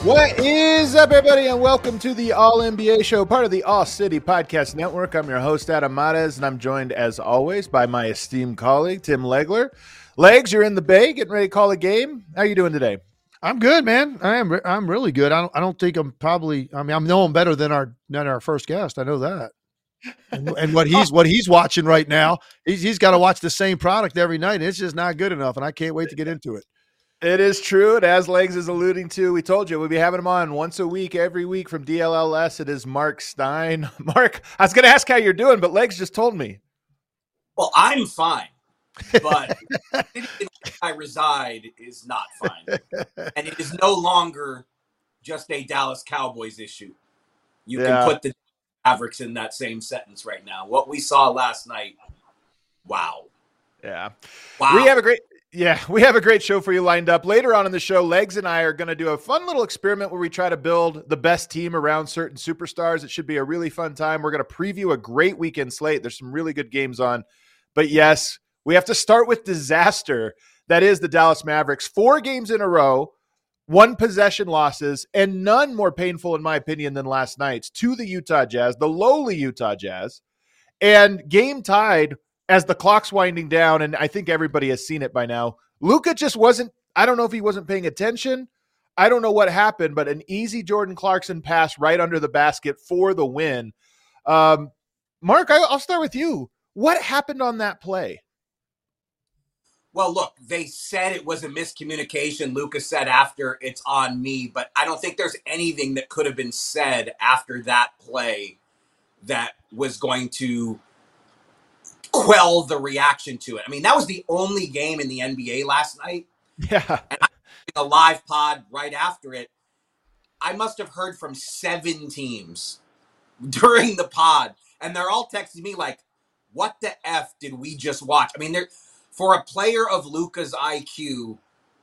What is up, everybody, and welcome to the All NBA Show, part of the All City Podcast Network. I'm your host, Adam Mares, and I'm joined, as always, by my esteemed colleague, Tim Legler. Legs, you're in the Bay, getting ready to call a game. How are you doing today? I'm good, man. I'm really good. I don't think I'm probably. I know I'm better than our first guest. I know that. And what he's watching right now, he's got to watch the same product every night. And it's just not good enough, and I can't wait to get into it. It is true. And as Legs is alluding to, we told you we'll be having him on once a week, every week from DLLS. It is Mark Stein. Mark, I was going to ask how you're doing, but Legs just told me. Well, I'm fine, but the city in which I reside is not fine. And it is no longer just a Dallas Cowboys issue. You can put the Mavericks in that same sentence right now. What we saw last night, wow. Yeah. Wow. We have a great show for you lined up. Later on in the show, Legs and I are going to do a fun little experiment where we try to build the best team around certain superstars. It should be a really fun time. We're going to preview a great weekend slate. There's some really good games on. But yes, we have to start with disaster. That is the Dallas Mavericks. 4 games in a row, 1 possession losses, and none more painful, in my opinion, than last night's to the Utah Jazz, the lowly Utah Jazz, and game tied as the clock's winding down, and I think everybody has seen it by now. Luka just wasn't, I don't know if he wasn't paying attention. I don't know what happened, but an easy Jordan Clarkson pass right under the basket for the win. Mark, I'll start with you. What happened on that play? Well, look, they said it was a miscommunication. Luka said after, it's on me, but I don't think there's anything that could have been said after that play that was going to quell the reaction to it. I mean, that was the only game in the NBA last night. Yeah. And I did a live pod right after it. I must have heard from 7 teams during the pod, and they're all texting me like, what the F did we just watch? I mean, for a player of Luka's IQ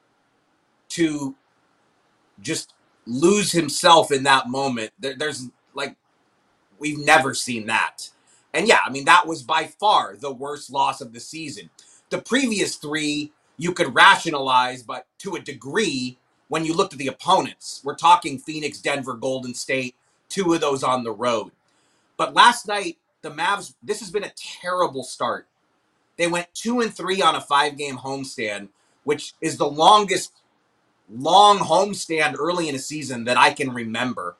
to just lose himself in that moment, there's like, we've never seen that. And yeah, I mean, that was by far the worst loss of the season. The previous 3, you could rationalize, but to a degree, when you looked at the opponents, we're talking Phoenix, Denver, Golden State, 2 of those on the road. But last night, the Mavs, this has been a terrible start. They went 2-3 on a 5-game homestand, which is the longest long homestand early in a season that I can remember.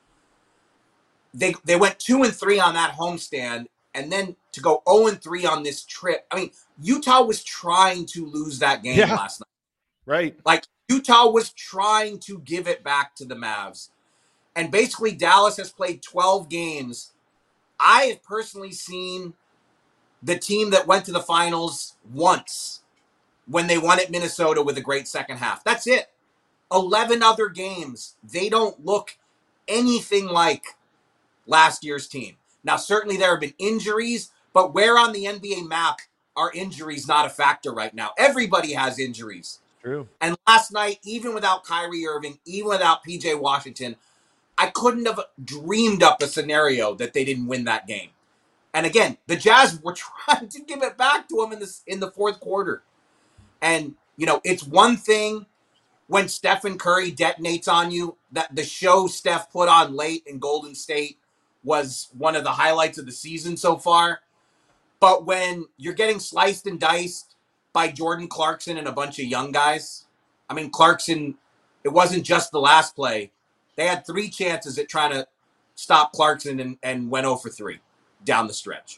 They went 2-3 on that homestand, and then to go 0-3 on this trip. I mean, Utah was trying to lose that game last night. Right. Like, Utah was trying to give it back to the Mavs. And basically, Dallas has played 12 games. I have personally seen the team that went to the finals once when they won at Minnesota with a great second half. That's it. 11 other games. They don't look anything like last year's team. Now, certainly there have been injuries, but where on the NBA map are injuries not a factor right now? Everybody has injuries. True. And last night, even without Kyrie Irving, even without PJ Washington, I couldn't have dreamed up a scenario that they didn't win that game. And again, the Jazz were trying to give it back to them in the fourth quarter. And, you know, it's one thing when Stephen Curry detonates on you. That the show Steph put on late in Golden State was one of the highlights of the season so far. But when you're getting sliced and diced by Jordan Clarkson and a bunch of young guys, I mean, Clarkson, it wasn't just the last play. They had 3 chances at trying to stop Clarkson and went 0 for 3 down the stretch.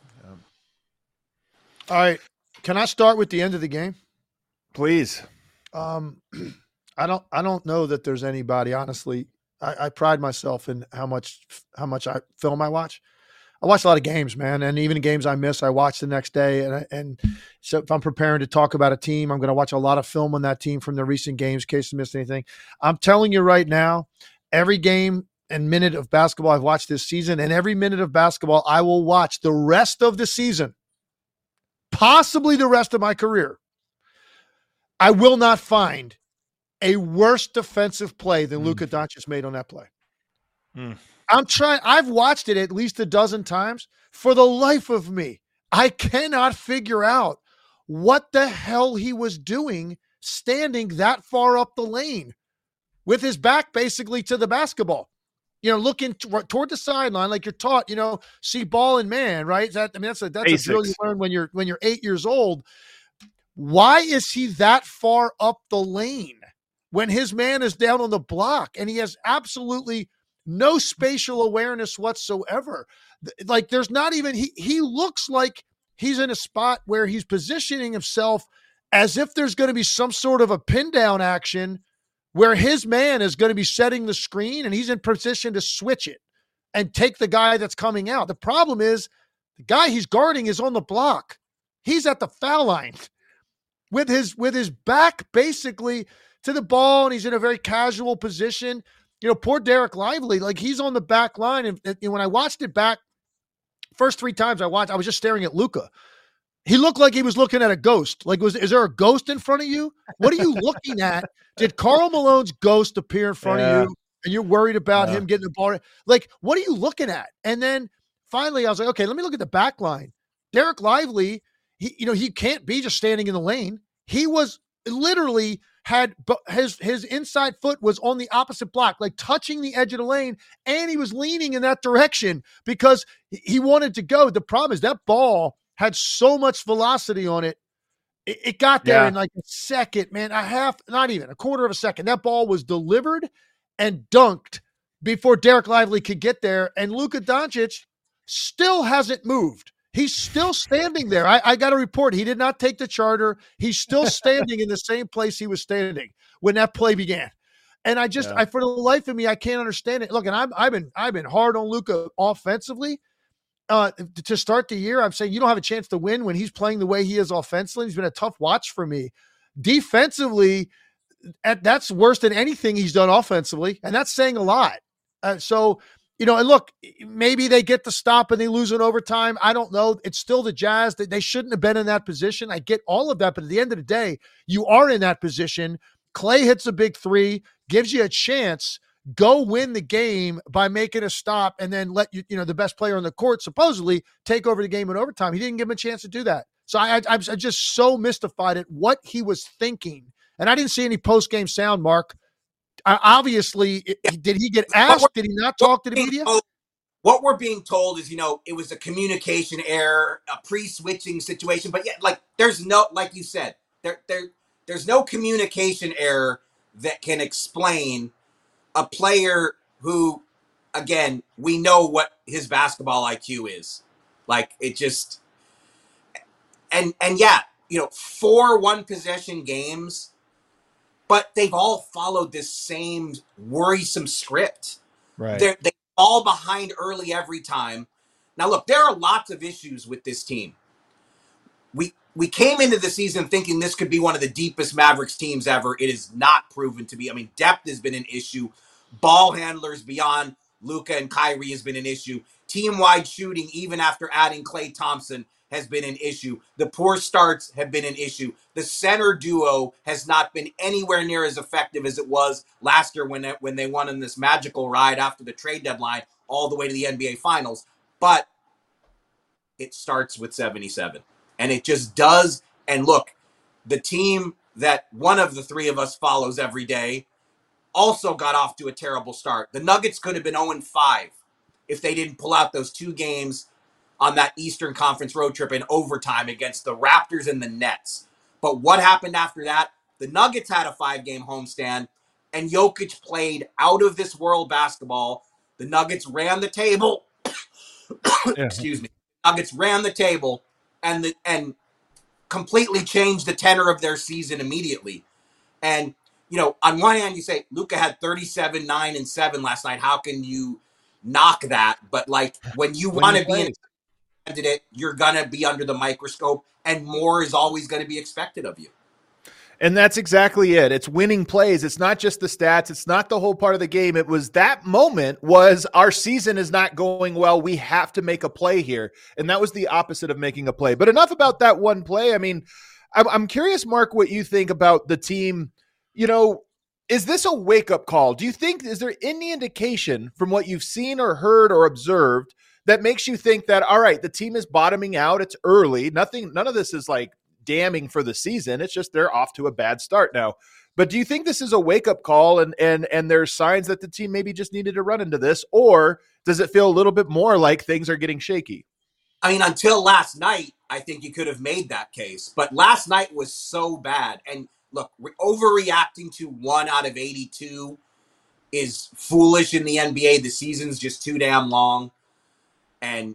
All right. Can I start with the end of the game? Please. I don't know that there's anybody, honestly. I pride myself in how much film I watch. I watch a lot of games, man, and even games I miss, I watch the next day. And so if I'm preparing to talk about a team, I'm going to watch a lot of film on that team from the recent games in case I missed anything. I'm telling you right now, every game and minute of basketball I've watched this season, and every minute of basketball I will watch the rest of the season, possibly the rest of my career, I will not find a worse defensive play than Luka Doncic made on that play. I've watched it at least a dozen times. For the life of me, I cannot figure out what the hell he was doing standing that far up the lane with his back basically to the basketball, looking toward the sideline like you're taught, see ball and man, right? That's a drill you learn when you're 8 years old. Why is he that far up the lane when his man is down on the block and he has absolutely no spatial awareness whatsoever? Like there's not even, he looks like he's in a spot where he's positioning himself as if there's going to be some sort of a pin down action where his man is going to be setting the screen and he's in position to switch it and take the guy that's coming out. The problem is the guy he's guarding is on the block. He's at the foul line with his back basically to the ball, and he's in a very casual position. Poor Derek Lively, like he's on the back line. And when I watched it back, first 3 times I was just staring at Luka. He looked like he was looking at a ghost. Like, is there a ghost in front of you? What are you looking at? Did Karl Malone's ghost appear in front of you and you're worried about him getting the ball? Like, what are you looking at? And then finally I was like, okay, let me look at the back line. Derek Lively, he can't be just standing in the lane. He was literally had his inside foot was on the opposite block, like touching the edge of the lane, and he was leaning in that direction because he wanted to go. The problem is that ball had so much velocity on it. It got there in like a second, man, not even a quarter of a second. That ball was delivered and dunked before Derek Lively could get there. And Luka Doncic still hasn't moved. He's still standing there. I got a report. He did not take the charter. He's still standing in the same place he was standing when that play began. And I for the life of me, I can't understand it. Look, and I've been hard on Luka offensively. To start the year, I'm saying you don't have a chance to win when he's playing the way he is offensively. He's been a tough watch for me. Defensively, that's worse than anything he's done offensively, and that's saying a lot. And look, maybe they get the stop and they lose in overtime. I don't know. It's still the Jazz. They shouldn't have been in that position. I get all of that, but at the end of the day, you are in that position. Clay hits a big 3, gives you a chance. Go win the game by making a stop and then let the best player on the court supposedly take over the game in overtime. He didn't give him a chance to do that. So I'm just so mystified at what he was thinking. And I didn't see any post-game sound, Mark. Obviously, did he get asked? Did he not talk to the media? What we're being told is, it was a communication error, a pre-switching situation. But there's no, like you said, there's no communication error that can explain a player who, again, we know what his basketball IQ is. Like, it just, and 4 one-possession games, but they've all followed this same worrisome script. Right. They fall behind early every time. Now, look, there are lots of issues with this team. We came into the season thinking this could be one of the deepest Mavericks teams ever. It is not proven to be. I mean, depth has been an issue. Ball handlers beyond Luka and Kyrie has been an issue. Team-wide shooting, even after adding Klay Thompson, has been an issue. The poor starts have been an issue. The center duo has not been anywhere near as effective as it was last year when they won in this magical ride after the trade deadline all the way to the NBA Finals. But it starts with 77. And it just does. And look, the team that one of the 3 of us follows every day also got off to a terrible start. The Nuggets could have been 0-5 if they didn't pull out those 2 games on that Eastern Conference road trip in overtime against the Raptors and the Nets. But what happened after that? The Nuggets had a 5-game homestand, and Jokic played out of this world basketball. The Nuggets ran the table. Excuse me. Nuggets ran the table and completely changed the tenor of their season immediately. And on one hand, you say Luka had 37, 9, and 7 last night. How can you knock that? But when you want to be in a candidate, you're gonna be under the microscope, and more is always going to be expected of you. And that's exactly it. It's winning plays. It's not just the stats. It's not the whole part of the game. It was that moment was our season is not going well. We have to make a play here. And that was the opposite of making a play. But enough about that one play. I mean, I'm curious, Mark, what you think about the team. Is this a wake-up call? Do you think, is there any indication from what you've seen or heard or observed that makes you think that, all right, the team is bottoming out. It's early. None of this is damning for the season. It's just they're off to a bad start now. But do you think this is a wake-up call and there's signs that the team maybe just needed to run into this? Or does it feel a little bit more like things are getting shaky? I mean, until last night, I think you could have made that case. But last night was so bad. And look, overreacting to 1 out of 82 is foolish in the NBA. The season's just too damn long. And,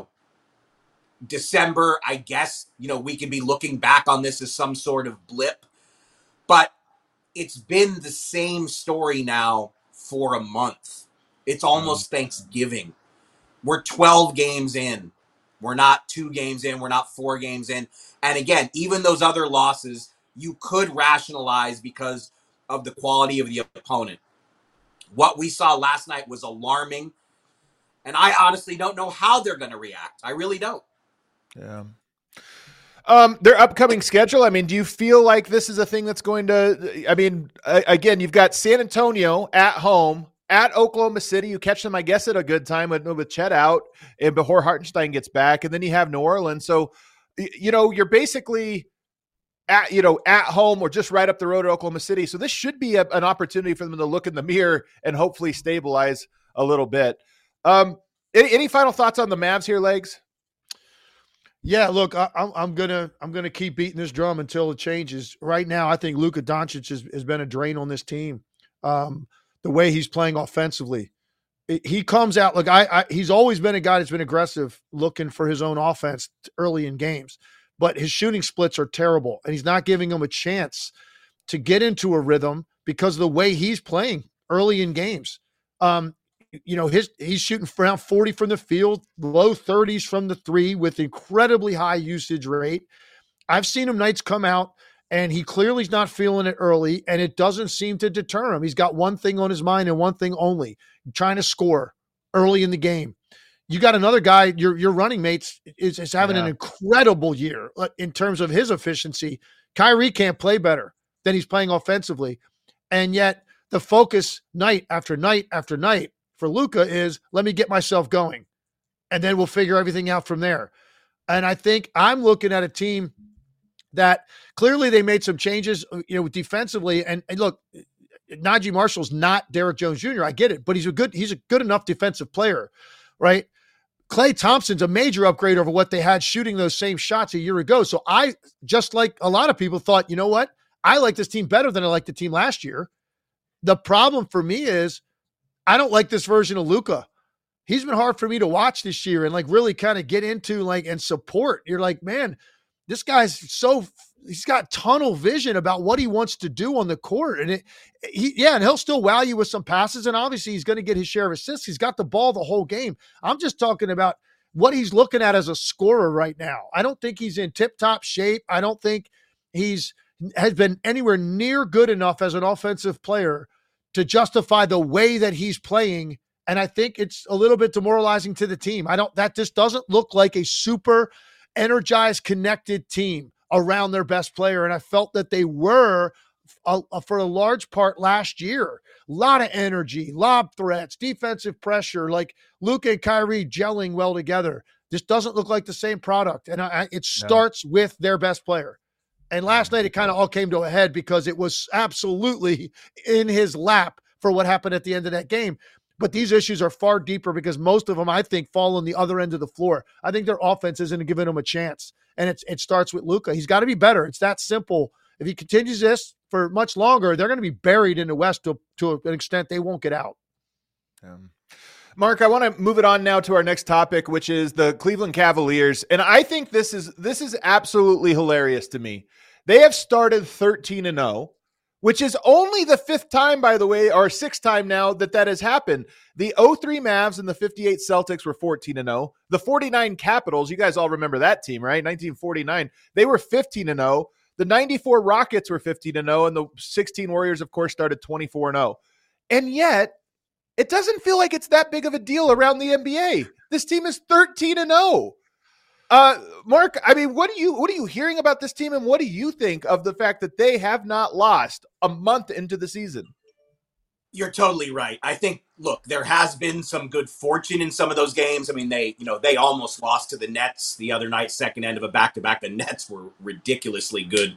December, I guess, we could be looking back on this as some sort of blip. But it's been the same story now for a month. It's almost Thanksgiving. We're 12 games in. We're not 2 games in. We're not 4 games in. And again, even those other losses, you could rationalize because of the quality of the opponent. What we saw last night was alarming. And I honestly don't know how they're going to react. I really don't. Yeah. Their upcoming schedule, I mean, do you feel like this is a thing that's going to, again, you've got San Antonio at home, at Oklahoma City. You catch them, I guess, at a good time with Chet out and before Hartenstein gets back. And then you have New Orleans. So, you're basically at home or just right up the road at Oklahoma City. So this should be an opportunity for them to look in the mirror and hopefully stabilize a little bit. Any final thoughts on the Mavs here, Legs? Yeah, look, I'm gonna keep beating this drum until it changes. Right now, I think Luka Doncic has been a drain on this team. The way he's playing offensively, he comes out. Look, he's always been a guy that's been aggressive, looking for his own offense early in games, but his shooting splits are terrible, and he's not giving him a chance to get into a rhythm because of the way he's playing early in games. He's shooting around 40 from the field, low 30s from the 3 with incredibly high usage rate. I've seen him nights come out and he clearly is not feeling it early, and it doesn't seem to deter him. He's got one thing on his mind and one thing only, trying to score early in the game. You got another guy, your running mates is having an incredible year in terms of his efficiency. Kyrie can't play better than he's playing offensively. And yet the focus night after night after night for Luka is, let me get myself going, and then we'll figure everything out from there. And I think I'm looking at a team that clearly they made some changes, defensively. And look, Najee Marshall's not Derrick Jones Jr. I get it, but he's a good enough defensive player, right? Klay Thompson's a major upgrade over what they had shooting those same shots a year ago. So I, just like a lot of people, thought, you know what? I like this team better than I liked the team last year. The problem for me is I don't like this version of Luka. He's been hard for me to watch this year and really kind of get into and support. You're like, man, this guy's he's got tunnel vision about what he wants to do on the court. And and he'll still wow you with some passes. And obviously he's going to get his share of assists. He's got the ball the whole game. I'm just talking about what he's looking at as a scorer right now. I don't think he's in tip-top shape. I don't think has been anywhere near good enough as an offensive player to justify the way that he's playing. And I think it's a little bit demoralizing to the team. That just doesn't look like a super energized, connected team around their best player. And I felt that they were for a large part last year. A lot of energy, lob threats, defensive pressure, like Luka and Kyrie gelling well together. This doesn't look like the same product. And it starts with their best player. And last night, it kind of all came to a head because it was absolutely in his lap for what happened at the end of that game. But these issues are far deeper because most of them, I think, fall on the other end of the floor. I think their offense isn't giving them a chance. And it starts with Luka. He's got to be better. It's that simple. If he continues this for much longer, they're going to be buried in the West to an extent they won't get out. Mark, I want to move it on now to our next topic, which is the Cleveland Cavaliers. And I think this is absolutely hilarious to me. They have started 13-0, which is only the 5th time, by the way, or 6th time now that has happened. The 03 Mavs and the 58 Celtics were 14-0. The 49 Capitals, you guys all remember that team, right? 1949. They were 15-0. The 94 Rockets were 15-0, and the 16 Warriors, of course, started 24-0. And yet, it doesn't feel like it's that big of a deal around the NBA. This team is 13-0. Mark, I mean, what are you hearing about this team, and what do you think of the fact that they have not lost a month into the season? You're totally right. I think, look, there has been some good fortune in some of those games. I mean, they almost lost to the Nets the other night, second end of a back-to-back. The Nets were ridiculously good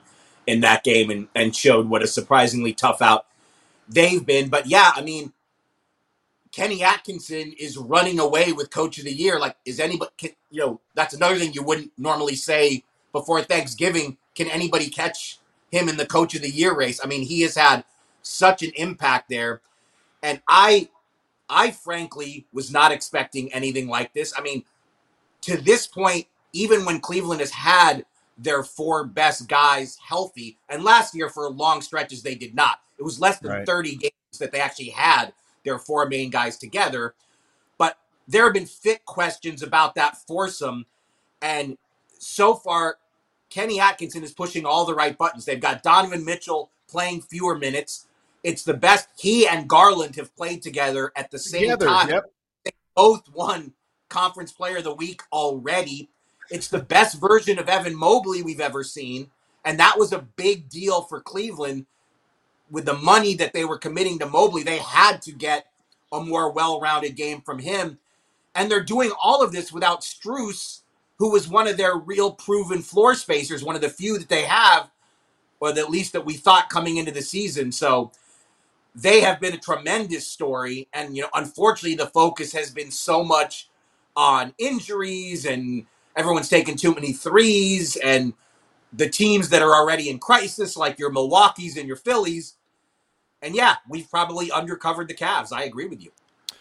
in that game and showed what a surprisingly tough out they've been. But yeah, I mean, Kenny Atkinson is running away with Coach of the Year. Like, is anybody, that's another thing you wouldn't normally say before Thanksgiving. Can anybody catch him in the Coach of the Year race? I mean, he has had such an impact there. And I frankly was not expecting anything like this. I mean, to this point, even when Cleveland has had their 4 best guys healthy, and last year for long stretches they did not. It was less than 30 games that they actually had their 4 main guys together. But there have been fit questions about that foursome. And so far, Kenny Atkinson is pushing all the right buttons. They've got Donovan Mitchell playing fewer minutes. It's the best he and Garland have played together at the same time. Yep. They both won Conference Player of the Week already. It's the best version of Evan Mobley we've ever seen. And that was a big deal for Cleveland. With the money that they were committing to Mobley, they had to get a more well-rounded game from him. And they're doing all of this without Strus, who was one of their real proven floor spacers, one of the few that they have, or at least that we thought coming into the season. So they have been a tremendous story. And, unfortunately, the focus has been so much on injuries and everyone's taking too many threes and the teams that are already in crisis, like your Milwaukees and your Phillies. And yeah, we've probably undercovered the Cavs. I agree with you.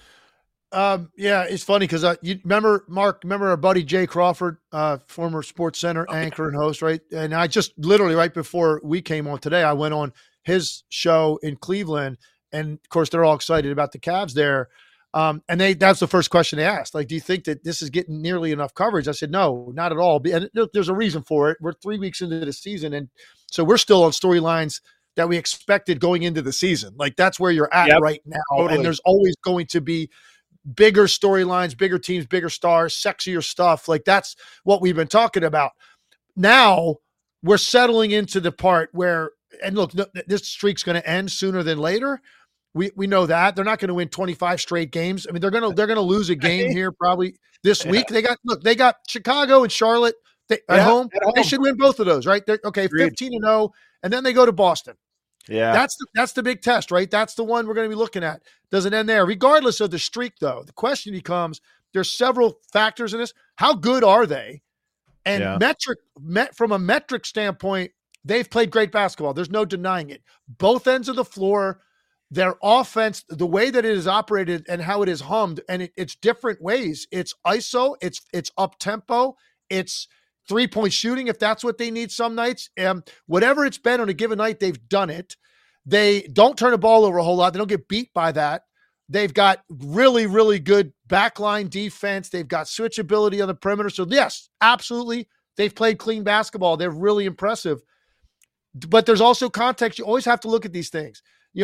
Yeah, it's funny because you remember, Mark, our buddy Jay Crawford, former Sports Center anchor and host, right? And I just literally right before we came on today, I went on his show in Cleveland, and of course they're all excited about the Cavs there. And that's the first question they asked. Like, do you think that this is getting nearly enough coverage? I said, no, not at all. And there's a reason for it. We're 3 weeks into the season, and so we're still on storylines that we expected going into the season. Like, that's where you're at right now. Totally. And there's always going to be bigger storylines, bigger teams, bigger stars, sexier stuff. Like, that's what we've been talking about. Now we're settling into the part where, and look, this streak's going to end sooner than later. We know that they're not going to win 25 straight games. I mean, they're going to lose a game here probably this week. They got Chicago and Charlotte at home. They should win both of those, right? They're, 15-0, and then they go to Boston. Yeah, that's the big test, right? That's the one we're going to be looking at. Doesn't end there. Regardless of the streak, though, the question becomes: there's several factors in this. How good are they? And from a metric standpoint, they've played great basketball. There's no denying it. Both ends of the floor. Their offense, the way that it is operated and how it is hummed, and it's different ways. It's ISO, it's up tempo, it's 3-point shooting if that's what they need some nights. Whatever it's been on a given night, they've done it. They don't turn the ball over a whole lot. They don't get beat by that. They've got really, really good backline defense. They've got switchability on the perimeter. So yes, absolutely, they've played clean basketball. They're really impressive. But there's also context. You always have to look at these things.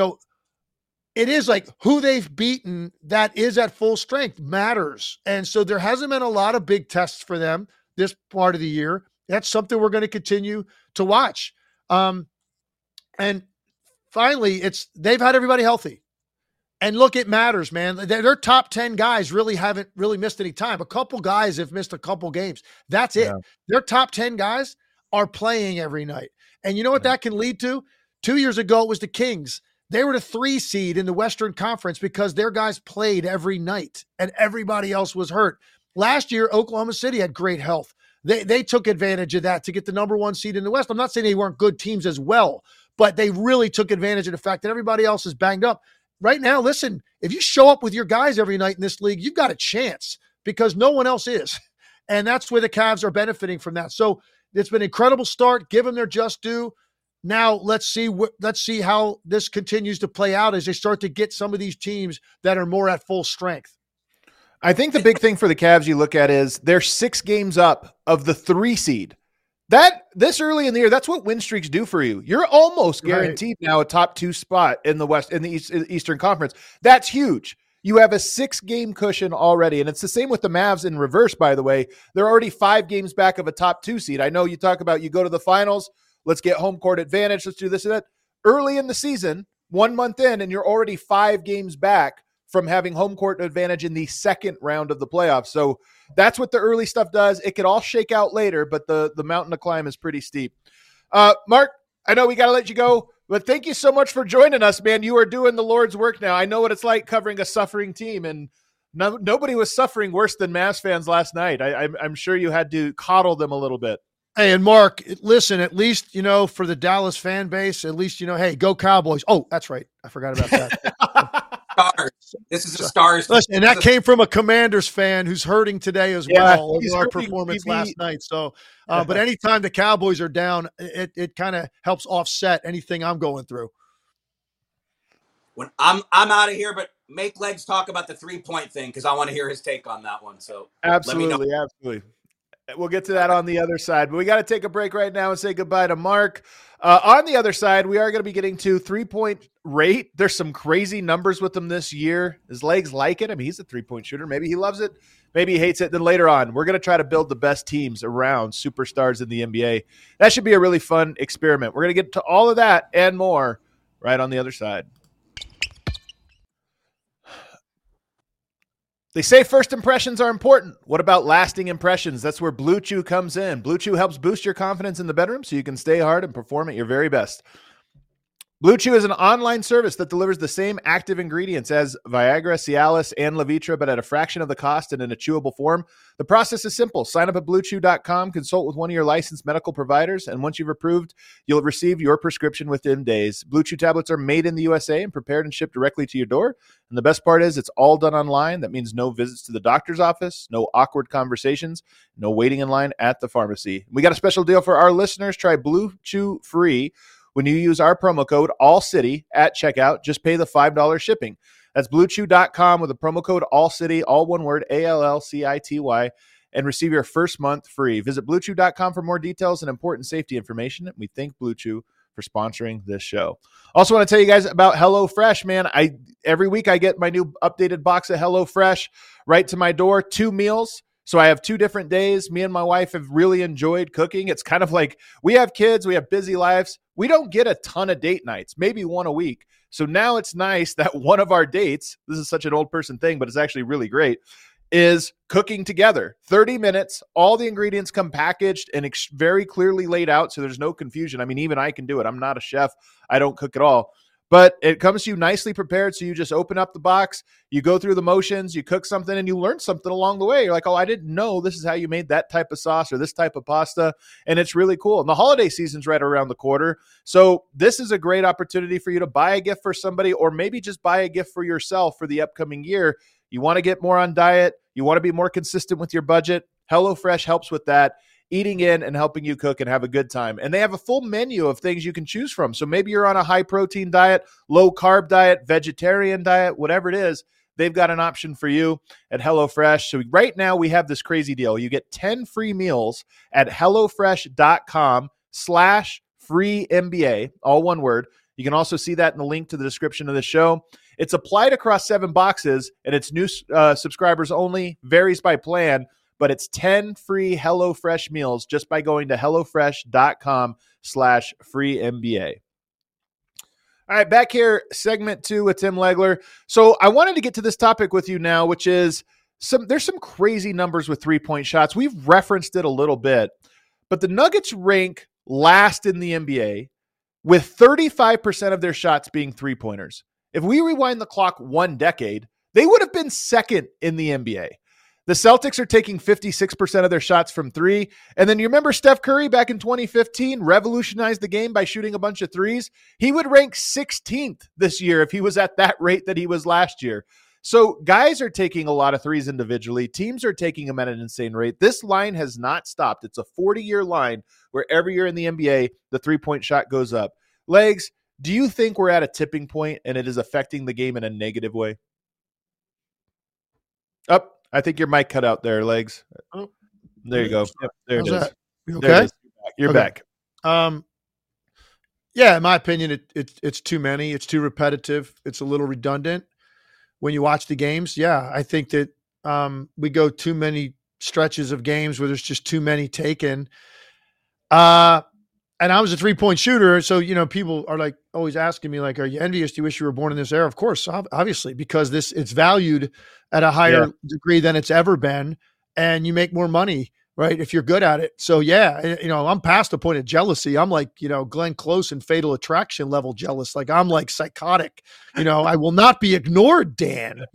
It is like who they've beaten that is at full strength matters. And so there hasn't been a lot of big tests for them this part of the year. That's something we're going to continue to watch. And finally, they've had everybody healthy. And look, it matters, man. Their top 10 guys really haven't really missed any time. A couple guys have missed a couple games. That's it. Their top 10 guys are playing every night. And you know what that can lead to? 2 years ago, it was the Kings. They were the 3 seed in the Western Conference because their guys played every night and everybody else was hurt. Last year, Oklahoma City had great health. They took advantage of that to get the number 1 seed in the West. I'm not saying they weren't good teams as well, but they really took advantage of the fact that everybody else is banged up. Right now, listen, if you show up with your guys every night in this league, you've got a chance because no one else is. And that's where the Cavs are benefiting from that. So it's been an incredible start. Give them their just due. Now let's see how this continues to play out as they start to get some of these teams that are more at full strength. I think the big thing for the Cavs you look at is they're 6 games up of the 3 seed. That this early in the year, that's what win streaks do for you. You're almost guaranteed now a top 2 spot in the West, in the Eastern Conference. That's huge. You have a 6-game cushion already. And it's the same with the Mavs in reverse, by the way. They're already 5 games back of a top 2 seed. I know you talk about you go to the finals, let's get home court advantage, let's do this and that. Early in the season, 1 month in, and you're already 5 games back from having home court advantage in the second round of the playoffs. So that's what the early stuff does. It could all shake out later, but the mountain to climb is pretty steep. Mark, I know we got to let you go, but thank you so much for joining us, man. You are doing the Lord's work now. I know what it's like covering a suffering team, and nobody was suffering worse than Mavs fans last night. I'm sure you had to coddle them a little bit. Hey, and Mark, listen, at least, for the Dallas fan base, at least, hey, go Cowboys. Oh, that's right. I forgot about that. Stars. This is a Stars. Listen, and that came from a Commanders fan who's hurting today as well over our performance TV. last night. So, but anytime the Cowboys are down, it kind of helps offset anything I'm going through. When I'm out of here, but make Legs talk about the 3-point thing because I want to hear his take on that one. So absolutely. We'll get to that on the other side, but we got to take a break right now and say goodbye to Mark. On the other side, we are going to be getting to 3-point rate. There's some crazy numbers with him this year. His legs like it. I mean, he's a 3-point shooter. Maybe he loves it. Maybe he hates it. Then later on, we're going to try to build the best teams around superstars in the NBA. That should be a really fun experiment. We're going to get to all of that and more right on the other side. They say first impressions are important. What about lasting impressions? That's where Blue Chew comes in. Blue Chew helps boost your confidence in the bedroom so you can stay hard and perform at your very best. Blue Chew is an online service that delivers the same active ingredients as Viagra, Cialis, and Levitra, but at a fraction of the cost and in a chewable form. The process is simple. Sign up at BlueChew.com, consult with one of your licensed medical providers, and once you've approved, you'll receive your prescription within days. Blue Chew tablets are made in the USA and prepared and shipped directly to your door. And the best part is it's all done online. That means no visits to the doctor's office, no awkward conversations, no waiting in line at the pharmacy. We got a special deal for our listeners. Try Blue Chew free when you use our promo code ALLCITY at checkout. Just pay the $5 shipping. That's BlueChew.com with the promo code ALLCITY, all one word, ALLCITY, and receive your first month free. Visit BlueChew.com for more details and important safety information. We thank Blue Chew for sponsoring this show. Also want to tell you guys about HelloFresh, man. Every week I get my new updated box of HelloFresh right to my door, 2 meals. So I have 2 different days. Me and my wife have really enjoyed cooking. It's kind of like we have kids, we have busy lives. We don't get a ton of date nights, maybe one a week. So now it's nice that one of our dates, this is such an old person thing, but it's actually really great, is cooking together. 30 minutes, all the ingredients come packaged and very clearly laid out so there's no confusion. I mean, even I can do it. I'm not a chef. I don't cook at all. But it comes to you nicely prepared, so you just open up the box, you go through the motions, you cook something, and you learn something along the way. You're like, oh, I didn't know this is how you made that type of sauce or this type of pasta, and it's really cool. And the holiday season's right around the corner, so this is a great opportunity for you to buy a gift for somebody or maybe just buy a gift for yourself for the upcoming year. You want to get more on diet, you want to be more consistent with your budget. HelloFresh helps with that. Eating in and helping you cook and have a good time. And they have a full menu of things you can choose from. So maybe you're on a high protein diet, low carb diet, vegetarian diet, whatever it is, they've got an option for you at HelloFresh. So right now we have this crazy deal. You get 10 free meals at HelloFresh.com/free NBA, all one word. You can also see that in the link to the description of the show. It's applied across 7 boxes and it's new subscribers only, varies by plan. But it's 10 free HelloFresh meals just by going to HelloFresh.com/free NBA. All right, back here, segment 2 with Tim Legler. So I wanted to get to this topic with you now, which is there's some crazy numbers with 3-point shots. We've referenced it a little bit, but the Nuggets rank last in the NBA with 35% of their shots being 3-pointers. If we rewind the clock 1 decade, they would have been second in the NBA. The Celtics are taking 56% of their shots from 3. And then you remember Steph Curry back in 2015 revolutionized the game by shooting a bunch of 3s. He would rank 16th this year if he was at that rate that he was last year. So guys are taking a lot of 3s individually. Teams are taking them at an insane rate. This line has not stopped. It's a 40-year line where every year in the NBA, the 3-point shot goes up. Legs, do you think we're at a tipping point and it is affecting the game in a negative way? Up. I think your mic cut out there, Legs. Oh, there you go. Yep, there it is. You okay? You're back. Yeah, in my opinion, it's too many. It's too repetitive. It's a little redundant when you watch the games. Yeah, I think that we go too many stretches of games where there's just too many taken. And I was a 3-point shooter. So, people are like always asking me like, are you envious? Do you wish you were born in this era? Of course, obviously, because it's valued at a higher degree than it's ever been. And you make more money right? If you're good at it. So yeah, I'm past the point of jealousy. I'm like, Glenn Close and Fatal Attraction level jealous. Like I'm like psychotic. I will not be ignored, Dan.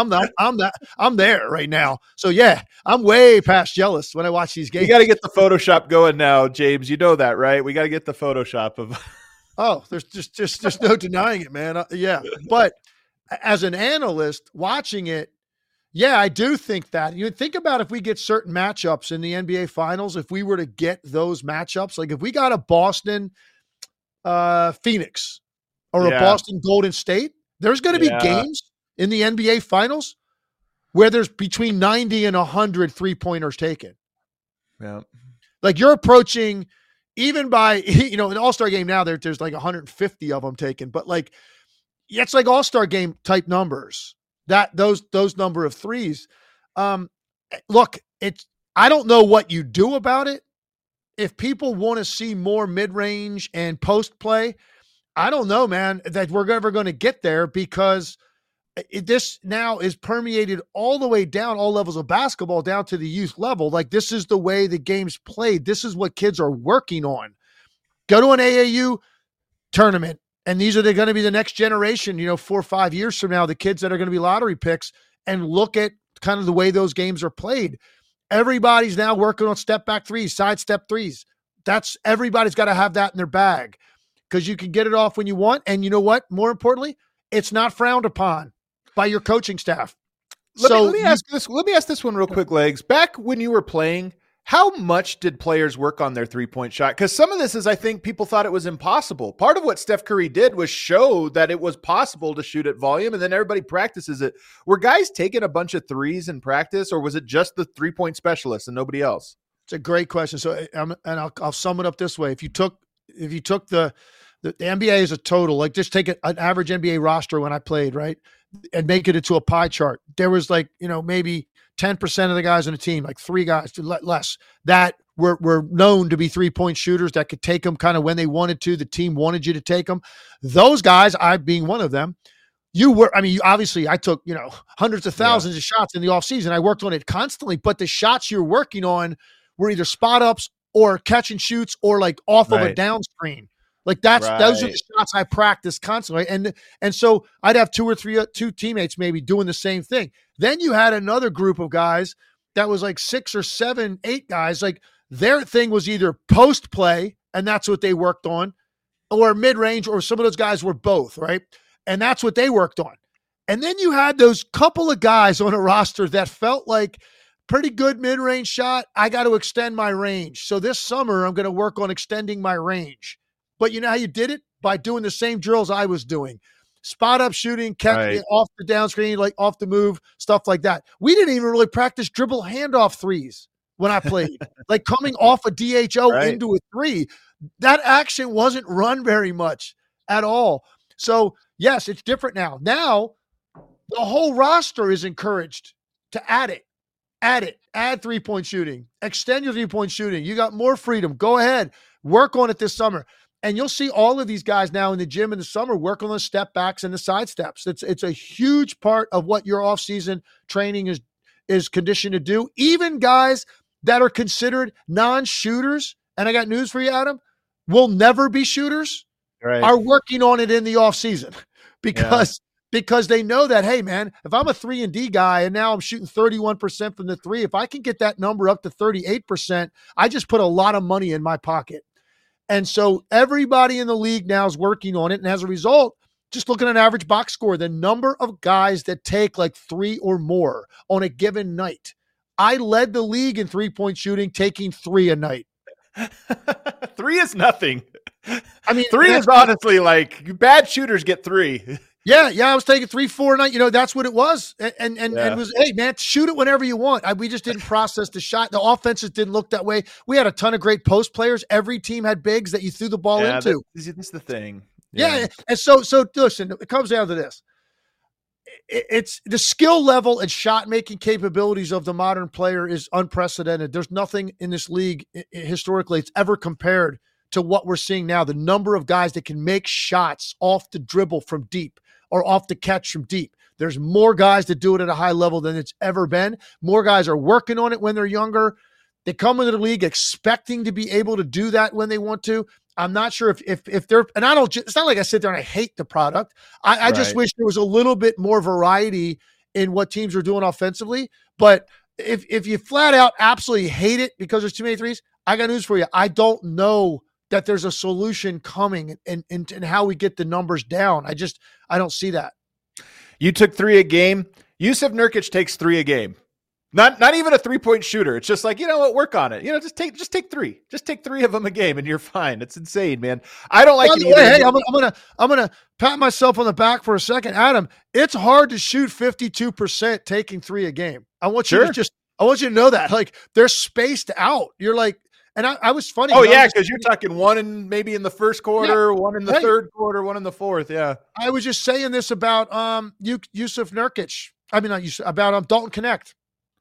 I'm there right now. So yeah, I'm way past jealous when I watch these games. You got to get the Photoshop going now, James. You know that, right? We got to get the Photoshop of. Oh, there's just no denying it, man. Yeah, but as an analyst watching it, yeah, I do think that. You think about if we get certain matchups in the NBA Finals, if we were to get those matchups, like if we got a Boston Phoenix or a Boston Golden State, there's going to be games in the NBA Finals where there's between 90 and 100 3-pointers taken. Yeah. Like you're approaching, even by, an All-Star game now, there's like 150 of them taken, but like, it's like All-Star game type numbers. Those number of threes. Look, I don't know what you do about it. If people want to see more mid-range and post play, I don't know, man, that we're ever going to get there because this now is permeated all the way down, all levels of basketball down to the youth level. Like this is the way the game's played. This is what kids are working on. Go to an AAU tournament. And these are going to be the next generation, 4 or 5 years from now, the kids that are going to be lottery picks, and look at kind of the way those games are played. Everybody's now working on step back threes, side step threes. Everybody's got to have that in their bag because you can get it off when you want. And you know what? More importantly, it's not frowned upon by your coaching staff. Let me ask this one real quick, Legs. Back when you were playing, how much did players work on their 3-point shot? Because some of this is, I think people thought it was impossible. Part of what Steph Curry did was show that it was possible to shoot at volume, and then everybody practices it. Were guys taking a bunch of threes in practice, or was it just the 3-point specialists and nobody else? It's a great question. So, I'll sum it up this way: if you took the NBA as a total, like just take an average NBA roster when I played, right, and make it into a pie chart, there was like maybe 10% of the guys on the team, like 3 guys, less, that were known to be 3-point shooters that could take them kind of when they wanted to. The team wanted you to take them. Those guys, I being one of them, obviously I took, hundreds of thousands of shots in the offseason. I worked on it constantly, but the shots you're working on were either spot ups or catch and shoots or like off of a down screen. Like those are the shots I practice constantly. And so I'd have 2 or 3 teammates maybe doing the same thing. Then you had another group of guys that was like 6 or 7, 8 guys. Like their thing was either post play, and that's what they worked on, or mid range, or some of those guys were both, right? And that's what they worked on. And then you had those couple of guys on a roster that felt like pretty good mid range shot. I got to extend my range. So this summer I'm going to work on extending my range. But you know how you did it? By doing the same drills I was doing. Spot up shooting, off the down screen, like off the move, stuff like that. We didn't even really practice dribble handoff threes when I played. Like coming off a DHO into a 3. That action wasn't run very much at all. So, yes, it's different now. Now, the whole roster is encouraged to add it. Add 3-point shooting. Extend your 3-point shooting. You got more freedom. Go ahead. Work on it this summer. And you'll see all of these guys now in the gym in the summer work on the step backs and the side steps. It's a huge part of what your offseason training is conditioned to do. Even guys that are considered non-shooters, and I got news for you, Adam, will never be shooters, are working on it in the offseason because they know that, hey, man, if I'm a 3-and-D guy and now I'm shooting 31% from the 3, if I can get that number up to 38%, I just put a lot of money in my pocket. And so everybody in the league now is working on it. And as a result, just look at an average box score, the number of guys that take like 3 or more on a given night. I led the league in 3-point shooting, taking 3 a night. 3 is nothing. I mean, 3 is honestly like bad shooters get 3. Yeah. I was taking 3, 4 a night. That's what it was. And it was, hey, man, shoot it whenever you want. We just didn't process the shot. The offenses didn't look that way. We had a ton of great post players. Every team had bigs that you threw the ball into. That's the thing. Yeah. And so listen, it comes down to this. It's the skill level and shot making capabilities of the modern player is unprecedented. There's nothing in this league historically it's ever compared to what we're seeing now. The number of guys that can make shots off the dribble from deep or off the catch from deep. There's more guys that do it at a high level than it's ever been. More guys are working on it when they're younger. They come into the league expecting to be able to do that when they want to. I'm not sure if they're, and I don't, it's not like I sit there and I hate the product. I just wish there was a little bit more variety in what teams are doing offensively. But if you flat out absolutely hate it because there's too many threes, I got news for you. I don't know that there's a solution coming and how we get the numbers down. I don't see that. You took 3 a game. Jusuf Nurkic takes 3 a game. Not even a 3-point shooter. It's just like, you know what, work on it. Just take 3. Just take 3 of them a game and you're fine. It's insane, man. I don't like it either. Hey, I'm gonna pat myself on the back for a second. Adam, it's hard to shoot 52% taking 3 a game. I want you to know that. Like, they're spaced out. You're like, and I was funny. Oh, yeah, because you're talking one maybe in the first quarter, one in the third quarter, one in the fourth. Yeah. I was just saying this about Jusuf Nurkic. I mean, not Jusuf, about Dalton Connect.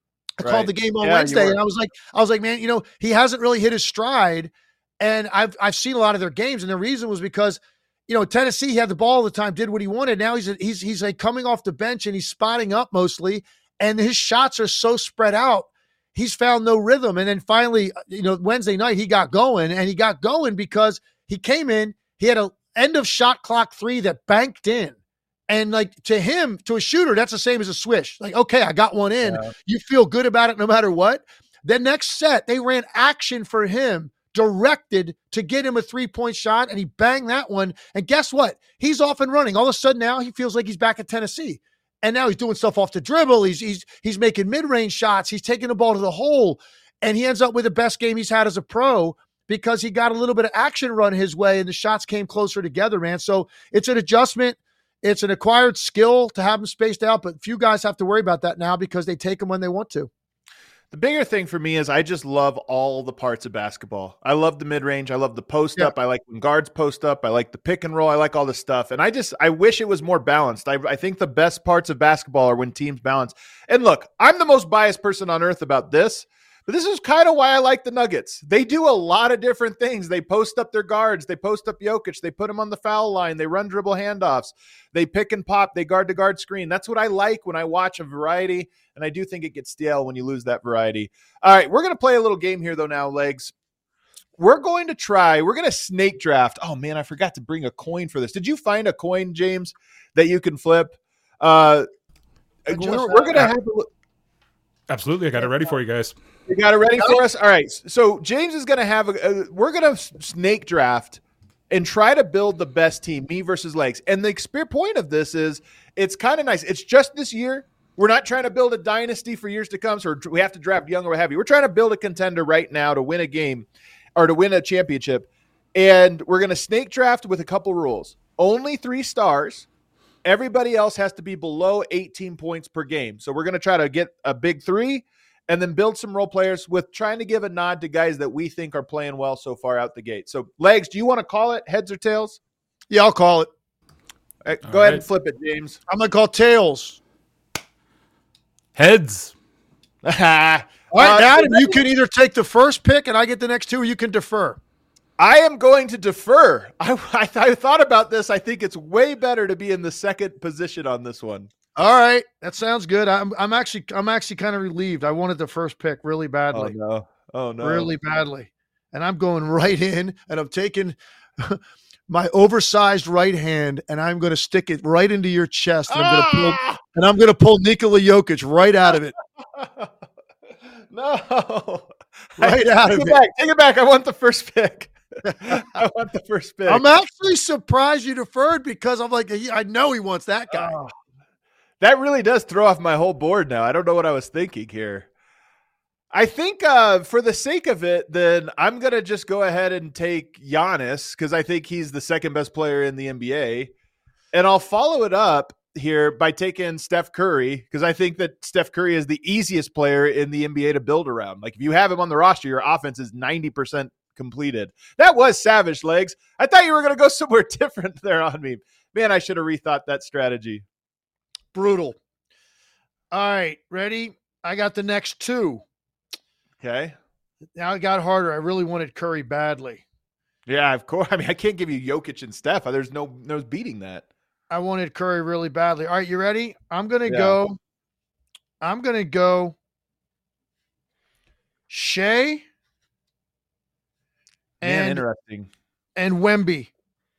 I called the game on Wednesday, and I was like, man, he hasn't really hit his stride. And I've seen a lot of their games, and the reason was because, Tennessee, he had the ball all the time, did what he wanted. Now he's like coming off the bench and he's spotting up mostly, and his shots are so spread out. He's found no rhythm. And then finally, Wednesday night he got going, and he got going because he came in, he had an end of shot clock 3 that banked in. And like to him, to a shooter, that's the same as a swish. Like, okay, I got one in. Yeah. You feel good about it no matter what. The next set, they ran action for him, directed to get him a 3-point shot, and he banged that one. And guess what? He's off and running. All of a sudden now he feels like he's back at Tennessee. And now he's doing stuff off the dribble. He's making mid-range shots. He's taking the ball to the hole. And he ends up with the best game he's had as a pro because he got a little bit of action run his way and the shots came closer together, man. So it's an adjustment. It's an acquired skill to have them spaced out, but few guys have to worry about that now because they take them when they want to. The bigger thing for me is I just love all the parts of basketball. I love the mid-range. I love the post-up. I like when guards post up. I like the pick and roll. I like all this stuff. And I wish it was more balanced. I think the best parts of basketball are when teams balance. And look, I'm the most biased person on earth about this, but this is kind of why I like the Nuggets. They do a lot of different things. They post up their guards. They post up Jokic. They put him on the foul line. They run dribble handoffs. They pick and pop. They guard-to-guard screen. That's what I like when I watch a variety, and I do think it gets stale when you lose that variety. All right, we're going to play a little game here, though, now, Legs. We're going to snake draft. Oh, man, I forgot to bring a coin for this. Did you find a coin, James, that you can flip? We're going to have a Absolutely. I got it ready for you guys. You got it ready for us? All right. So James is going to have we're going to snake draft and try to build the best team, me versus Legs. And the point of this is it's kind of nice. It's just this year. We're not trying to build a dynasty for years to come. So we have to draft young or what have you. We're trying to build a contender right now to win a game or to win a championship. And we're going to snake draft with a couple rules. Only 3 stars. Everybody else has to be below 18 points per game. So we're going to try to get a big 3 and then build some role players with trying to give a nod to guys that we think are playing well so far out the gate. So, Legs, do you want to call it heads or tails? Yeah, I'll call it. Go ahead and flip it, James. I'm going to call tails. Heads. All right, Adam, you can either take the first pick and I get the next 2, or you can defer. I am going to defer. I thought about this. I think it's way better to be in the second position on this one. All right, that sounds good. I'm actually kind of relieved. I wanted the first pick really badly. Oh no, really badly. And I'm going right in, and I'm taking my oversized right hand, and I'm going to stick it right into your chest, and I'm going to pull Nikola Jokic right out of it. No, right out of it. Take it back. I want the first pick. I want the first pick. I'm actually surprised you deferred because I'm like, I know he wants that guy. That really does throw off my whole board now. I don't know what I was thinking here. I think for the sake of it, then I'm going to just go ahead and take Giannis because I think he's the second best player in the NBA. And I'll follow it up here by taking Steph Curry because I think that Steph Curry is the easiest player in the NBA to build around. Like if you have him on the roster, your offense is 90% completed. That was savage, Legs. I thought you were going to go somewhere different there on me. Man, I should have rethought that strategy. Brutal. All right, ready? I got the next 2. Okay. Now it got harder. I really wanted Curry badly. Yeah, of course. I mean, I can't give you Jokic and Steph. There's no beating that. I wanted Curry really badly. All right, you ready? I'm going to go Shea Man, and interesting. Wemby.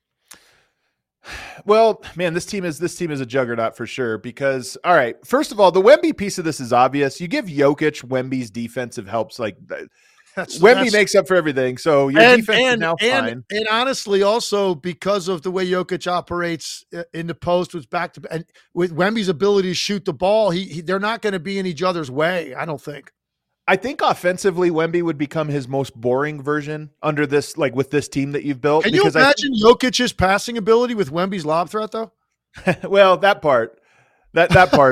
Well, man, this team is a juggernaut for sure. Because, all right, first of all, the Wemby piece of this is obvious. You give Jokic Wemby's defensive helps, like Wemby makes up for everything. So your defense is now fine. And honestly, also because of the way Jokic operates in the post, was back to, and with Wemby's ability to shoot the ball, they're not going to be in each other's way. I don't think. I think offensively, Wemby would become his most boring version under this, like with this team that you've built. Can you imagine Jokic's passing ability with Wemby's lob threat, though? Well, that part, that part,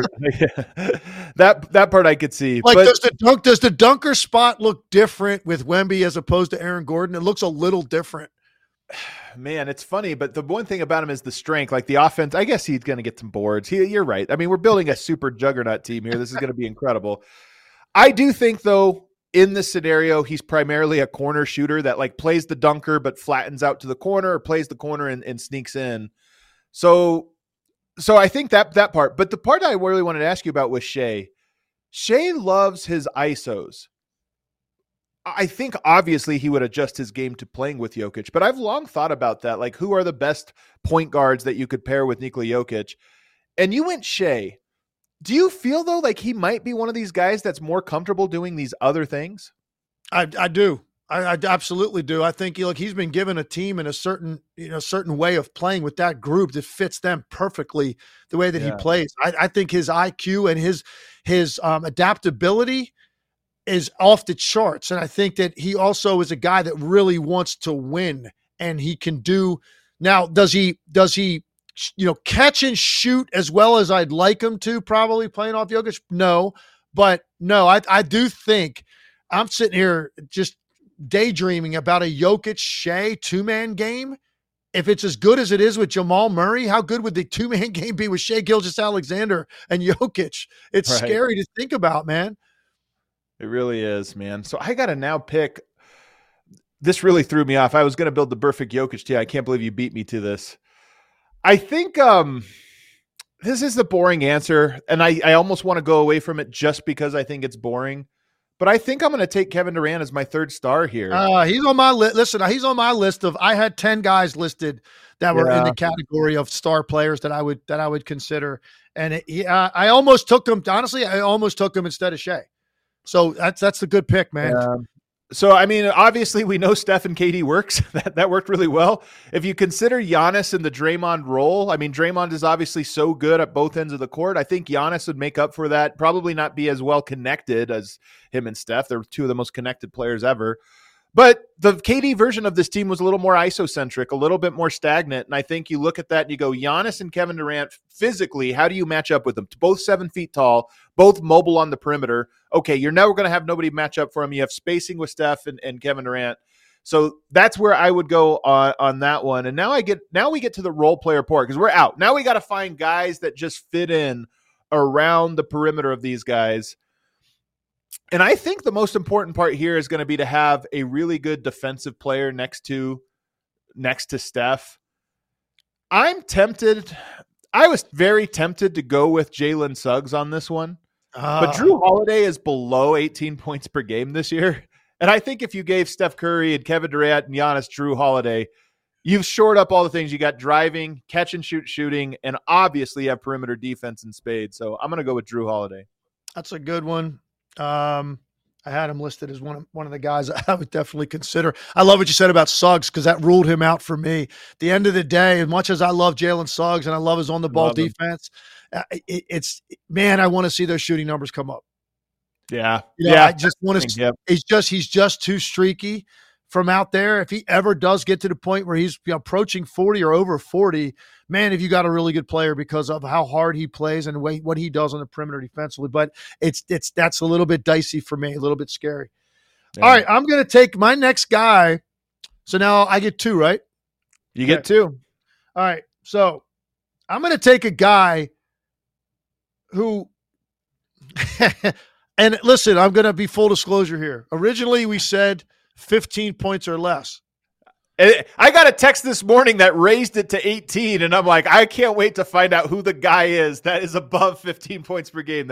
that part I could see. Like, does the dunker spot look different with Wemby as opposed to Aaron Gordon? It looks a little different. Man, it's funny, but the one thing about him is the strength. Like the offense, I guess he's going to get some boards. You're right. I mean, we're building a super juggernaut team here. This is going to be incredible. I do think, though, in this scenario, he's primarily a corner shooter that like plays the dunker but flattens out to the corner, or plays the corner and sneaks in. So I think that part. But the part I really wanted to ask you about was Shea. Shea loves his ISOs. I think obviously he would adjust his game to playing with Jokic, but I've long thought about that. Like, who are the best point guards that you could pair with Nikola Jokic? And you went Shea. Do you feel, though, like he might be one of these guys that's more comfortable doing these other things? I do. I absolutely do. I think he's been given a team in a certain way of playing with that group that fits them perfectly the way that he plays. I think his IQ and his adaptability is off the charts. And I think that he also is a guy that really wants to win, and he can do. Now, does he catch and shoot as well as I'd like him to, probably playing off Jokic? No, but no, I do think I'm sitting here just daydreaming about a Jokic Shea 2-man game. If it's as good as it is with Jamal Murray, how good would the 2-man game be with Shea Gilgeous-Alexander and Jokic? It's scary to think about, man. It really is, man. So I got to now pick. This really threw me off. I was going to build the perfect Jokic team. I can't believe you beat me to this. I think this is the boring answer, and I almost want to go away from it just because I think it's boring. But I think I'm going to take Kevin Durant as my third star here. He's on my list. Listen, he's on my list of. I had 10 guys listed that were in the category of star players that I would consider, and I almost took him. Honestly, I almost took him instead of Shea. So that's a good pick, man. Yeah. So, I mean, obviously we know Steph and KD works. That worked really well. If you consider Giannis in the Draymond role, I mean, Draymond is obviously so good at both ends of the court. I think Giannis would make up for that. Probably not be as well connected as him and Steph. They're two of the most connected players ever. But the KD version of this team was a little more isocentric, a little bit more stagnant. And I think you look at that and you go, Giannis and Kevin Durant, physically, how do you match up with them? Both 7 feet tall, both mobile on the perimeter. Okay, you're never going to have nobody match up for them. You have spacing with Steph and Kevin Durant. So that's where I would go on that one. And now we get to the role player part because we're out. Now we got to find guys that just fit in around the perimeter of these guys. And I think the most important part here is going to be to have a really good defensive player next to Steph. I'm tempted. I was very tempted to go with Jalen Suggs on this one. But Drew Holiday is below 18 points per game this year. And I think if you gave Steph Curry and Kevin Durant and Giannis Drew Holiday, you've shored up all the things. You got driving, catch and shoot shooting, and obviously you have perimeter defense in spades. So I'm going to go with Drew Holiday. That's a good one. I had him listed as one of the guys I would definitely consider. I love what you said about Suggs because that ruled him out for me. At the end of the day, as much as I love Jalen Suggs and I love his on-the-ball defense, I want to see those shooting numbers come up. Yeah. I just want to he's just too streaky from out there. If he ever does get to the point where he's approaching 40 or over 40, man, if you got a really good player because of how hard he plays and what he does on the perimeter defensively. But that's a little bit dicey for me, a little bit scary. Yeah. All right, I'm going to take my next guy. So now I get 2, right? You get 2. All right, so I'm going to take a guy who – and listen, I'm going to be full disclosure here. Originally, we said 15 points or less. I got a text this morning that raised it to 18, and I'm like, I can't wait to find out who the guy is that is above 15 points per game that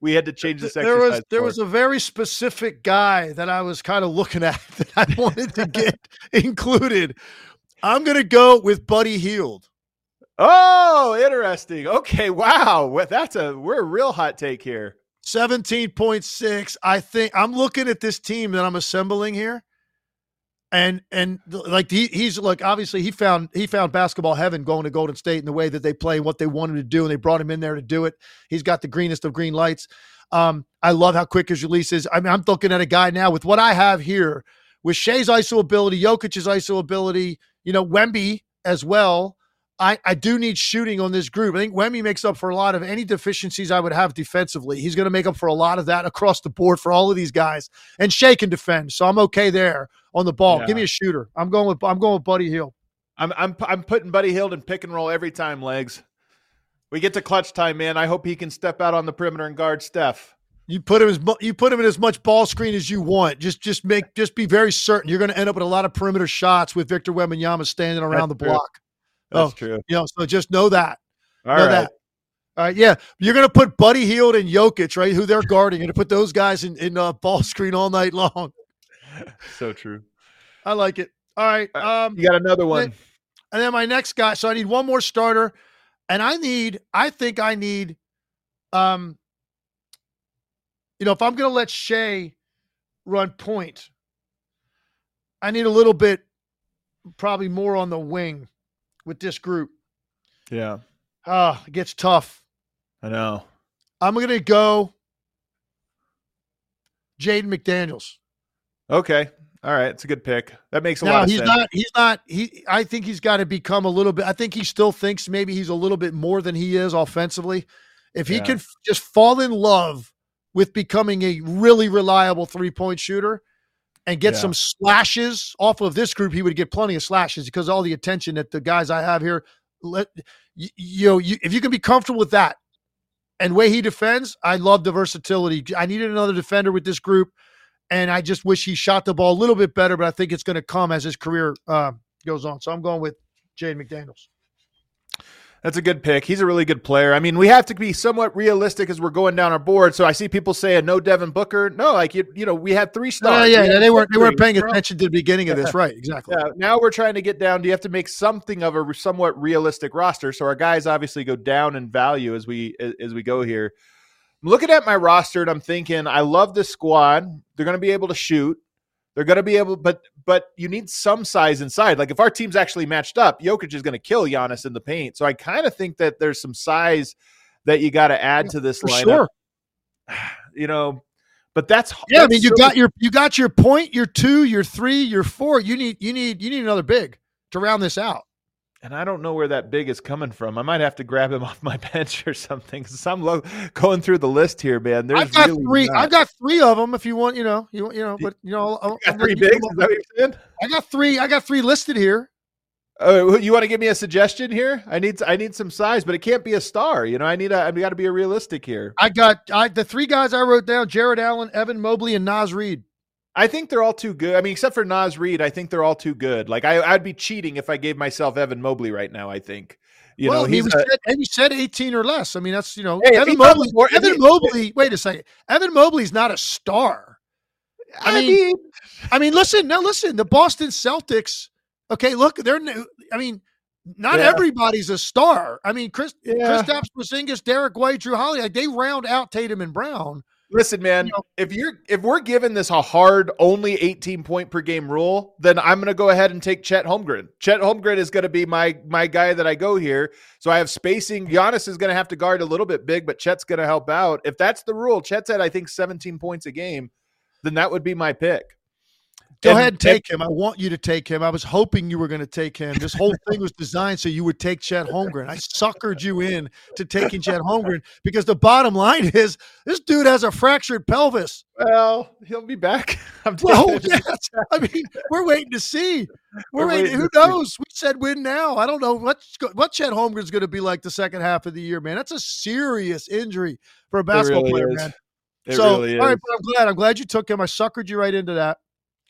we had to change this There exercise. there was a very specific guy that I was kind of looking at that I wanted to get included. I'm going to go with Buddy Hield. Oh, interesting. Okay, wow. We're a real hot take here. 17.6. I think I'm looking at this team that I'm assembling here. And like he's like, obviously he found basketball heaven going to Golden State in the way that they play, what they wanted to do, and they brought him in there to do it. He's got the greenest of green lights. I love how quick his release is. I mean, I'm looking at a guy now with what I have here with Shea's ISO ability, Jokic's ISO ability, Wemby as well. I do need shooting on this group. I think Wemby makes up for a lot of any deficiencies I would have defensively. He's going to make up for a lot of that across the board for all of these guys. And Shea can defend, so I'm okay there on the ball. Yeah. Give me a shooter. I'm going with Buddy Hield. I'm putting Buddy Hield in pick and roll every time, Legs. We get to clutch time, man. I hope he can step out on the perimeter and guard Steph. You put him in as much ball screen as you want. Just be very certain you're going to end up with a lot of perimeter shots with Victor Wembanyama standing around the block. That's true. So just know that. All right. All right, yeah. You're going to put Buddy Hield and Jokic, right, who they're guarding. You're going to put those guys in ball screen all night long. So true. I like it. All right. You got another one. And then my next guy. So I need one more starter. And I think I need, if I'm going to let Shea run point, I need a little bit, probably more on the wing with this group. Yeah. It gets tough. I know. I'm going to go Jaden McDaniels. Okay. All right. It's a good pick. That makes a lot of sense. I think he's got to become a little bit. I think he still thinks maybe he's a little bit more than he is offensively. If he can just fall in love with becoming a really reliable 3-point shooter and get some slashes off of this group, he would get plenty of slashes because all the attention that the guys I have here, if you can be comfortable with that and the way he defends, I love the versatility. I needed another defender with this group, and I just wish he shot the ball a little bit better, but I think it's going to come as his career goes on. So I'm going with Jaden McDaniels. That's a good pick. He's a really good player. I mean, we have to be somewhat realistic as we're going down our board. So I see people saying no Devin Booker. No, like we had 3 stars. They weren't paying attention to the beginning of this, right? Exactly. Yeah. Now we're trying to get down. Do you have to make something of a somewhat realistic roster? So our guys obviously go down in value as we go here. I'm looking at my roster and I'm thinking, I love this squad. They're going to be able to shoot. They're going to be able, but you need some size inside. Like if our team's actually matched up, Jokic is going to kill Giannis in the paint. So I kind of think that there's some size that you got to add to this lineup. Sure. But that's I mean, you got your point, your 2, your 3, your 4. You need another big to round this out. And I don't know where that big is coming from. I might have to grab him off my bench or something. Because I'm going through the list here, man. I've got 3 of them. If you want, but got 3 bigs. Is that what you're saying? I got 3 listed here. Oh, you want to give me a suggestion here? I need some size, but it can't be a star. I got to be realistic here. The 3 guys I wrote down: Jared Allen, Evan Mobley, and Naz Reid. I think they're all too good. I mean, except for Naz Reid, I think they're all too good. Like I'd be cheating if I gave myself Evan Mobley right now. I think, he said 18 or less. I mean, that's Evan Mobley. Wait a second, Evan Mobley's not a star. I mean, listen. The Boston Celtics. Okay, look, not everybody's a star. I mean, Kristaps Porzingis, Derek White, Drew Holiday, they round out Tatum and Brown. Listen, man, if we're given this a hard only 18 point per game rule, then I'm going to go ahead and take Chet Holmgren. Chet Holmgren is going to be my guy that I go here. So I have spacing. Giannis is going to have to guard a little bit big, but Chet's going to help out. If that's the rule, Chet's at, I think, 17 points a game, then that would be my pick. Go ahead and take him. I want you to take him. I was hoping you were going to take him. This whole thing was designed so you would take Chet Holmgren. I suckered you in to taking Chet Holmgren because the bottom line is this dude has a fractured pelvis. Well, he'll be back. Yes. I mean, we're waiting to see. We're waiting. Who knows? We said win now. I don't know what Chet Holmgren's going to be like the second half of the year, man. That's a serious injury for a basketball player, man. It really is. All right, but I'm glad you took him. I suckered you right into that.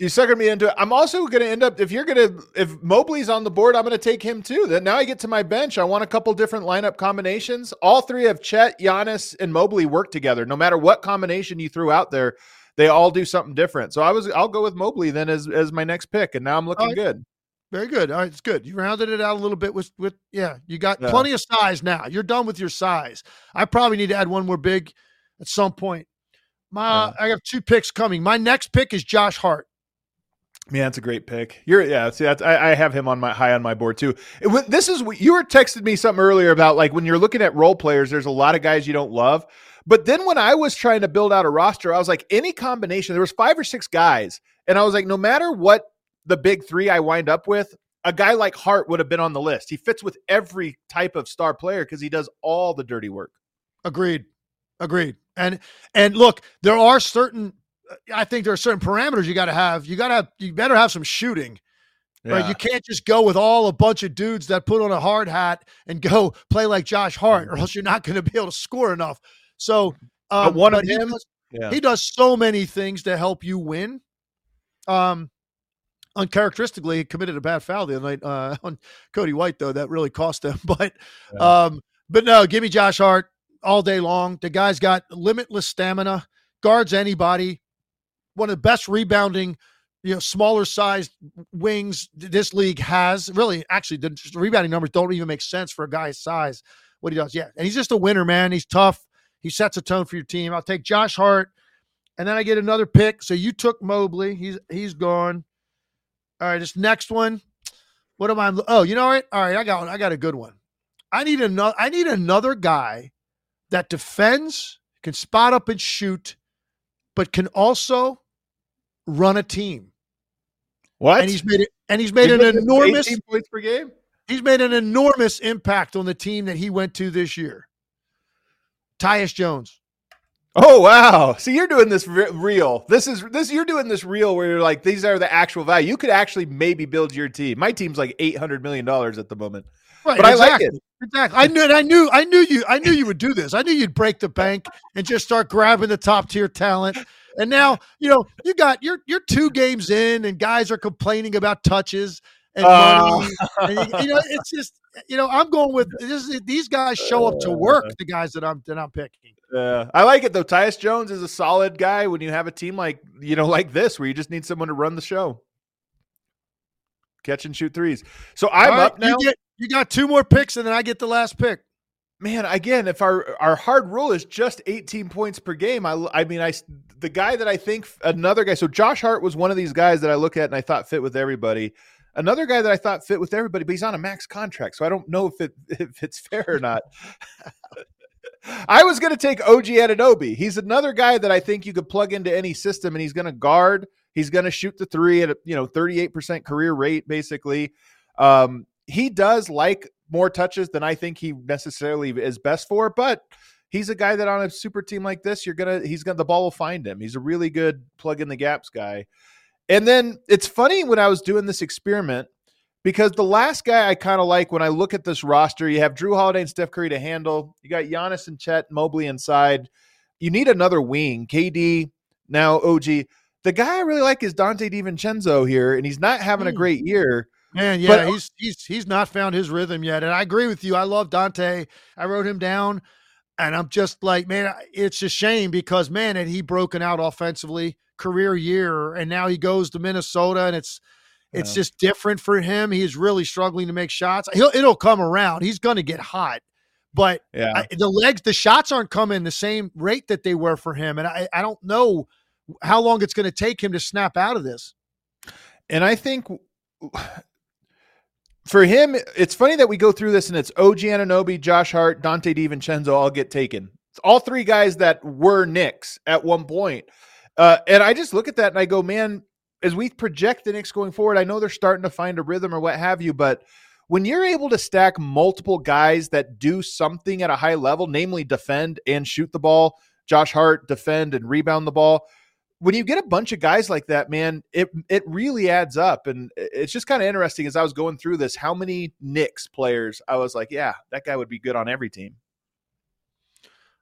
You suckered me into it. I'm also going to end up, if Mobley's on the board, I'm going to take him too. Then now I get to my bench. I want a couple different lineup combinations. All three of Chet, Giannis, and Mobley work together. No matter what combination you threw out there, they all do something different. So I'll go with Mobley then as my next pick. And now I'm looking good. Very good. All right, it's good. You rounded it out a little bit with you got plenty of size now. You're done with your size. I probably need to add one more big at some point. I have 2 picks coming. My next pick is Josh Hart. Yeah, that's a great pick. I have him on high on my board too. This is what you were texting me something earlier about, like when you're looking at role players, there's a lot of guys you don't love. But then when I was trying to build out a roster, I was like, any combination, there was 5 or 6 guys. And I was like, no matter what the big 3 I wind up with, a guy like Hart would have been on the list. He fits with every type of star player because he does all the dirty work. Agreed. And look, I think there are certain parameters you got to have. You better have some shooting. Yeah. Right? You can't just go with a bunch of dudes that put on a hard hat and go play like Josh Hart, or else you're not going to be able to score enough. So he does so many things to help you win. Uncharacteristically, he committed a bad foul the other night on Cody White, though. That really cost him. But no, give me Josh Hart all day long. The guy's got limitless stamina, guards anybody, one of the best rebounding, smaller sized wings this league has. Really, actually, the rebounding numbers don't even make sense for a guy's size, what he does. Yeah, and he's just a winner, man. He's tough. He sets a tone for your team. I'll take Josh Hart, and then I get another pick. So you took Mobley. He's gone. All right, this next one. What am I? Oh, you know what? All right, I got a good one. I need another guy that defends, can spot up and shoot, but can also run a team. What? And he's made an enormous 18 points per game. He's made an enormous impact on the team that he went to this year. Tyus Jones. Oh, wow. See, you're doing this real. You're doing this real where you're like, these are the actual value. You could actually maybe build your team. My team's like $800 million at the moment. Right, but exactly. I like it. Exactly. I knew you would do this. I knew you'd break the bank and just start grabbing the top tier talent. And now, you're 2 games in and guys are complaining about touches and money. And it's just, I'm going with these guys show up to work, the guys that I'm picking. I like it though. Tyus Jones is a solid guy when you have a team like this, where you just need someone to run the show. Catch and shoot threes. So I'm up now. You got 2 more picks, and then I get the last pick. Man, again, if our hard rule is just 18 points per game, the guy that I think another guy. So Josh Hart was one of these guys that I look at and I thought fit with everybody. Another guy that I thought fit with everybody, but he's on a max contract, so I don't know if it's fair or not. I was going to take OG Anunoby. He's another guy that I think you could plug into any system, and he's going to guard. He's going to shoot the 3 at a 38% career rate, basically. He does like more touches than I think he necessarily is best for, but he's a guy that on a super team like this, the ball will find him. He's a really good plug in the gaps guy. And then it's funny when I was doing this experiment, because the last guy I kind of like when I look at this roster, you have Drew Holiday and Steph Curry to handle. You got Giannis and Chet Mobley inside. You need another wing. KD, now OG. The guy I really like is Dante DiVincenzo here, and he's not having a great year. Man, yeah, but he's not found his rhythm yet. And I agree with you. I love Dante. I wrote him down, and I'm just like, man, it's a shame because, man, had he broken out offensively, career year, and now he goes to Minnesota, and it's just different for him. He is really struggling to make shots. It'll come around. He's going to get hot, but the shots aren't coming the same rate that they were for him, and I don't know how long it's going to take him to snap out of this. And I think for him, it's funny that we go through this and it's OG Anunoby, Josh Hart, Dante DiVincenzo all get taken. It's all 3 guys that were Knicks at one point. And I just look at that and I go, man, as we project the Knicks going forward, I know they're starting to find a rhythm or what have you, but when you're able to stack multiple guys that do something at a high level, namely defend and shoot the ball, Josh Hart, defend and rebound the ball, when you get a bunch of guys like that, man, it really adds up. And it's just kind of interesting as I was going through this, how many Knicks players I was like, yeah, that guy would be good on every team.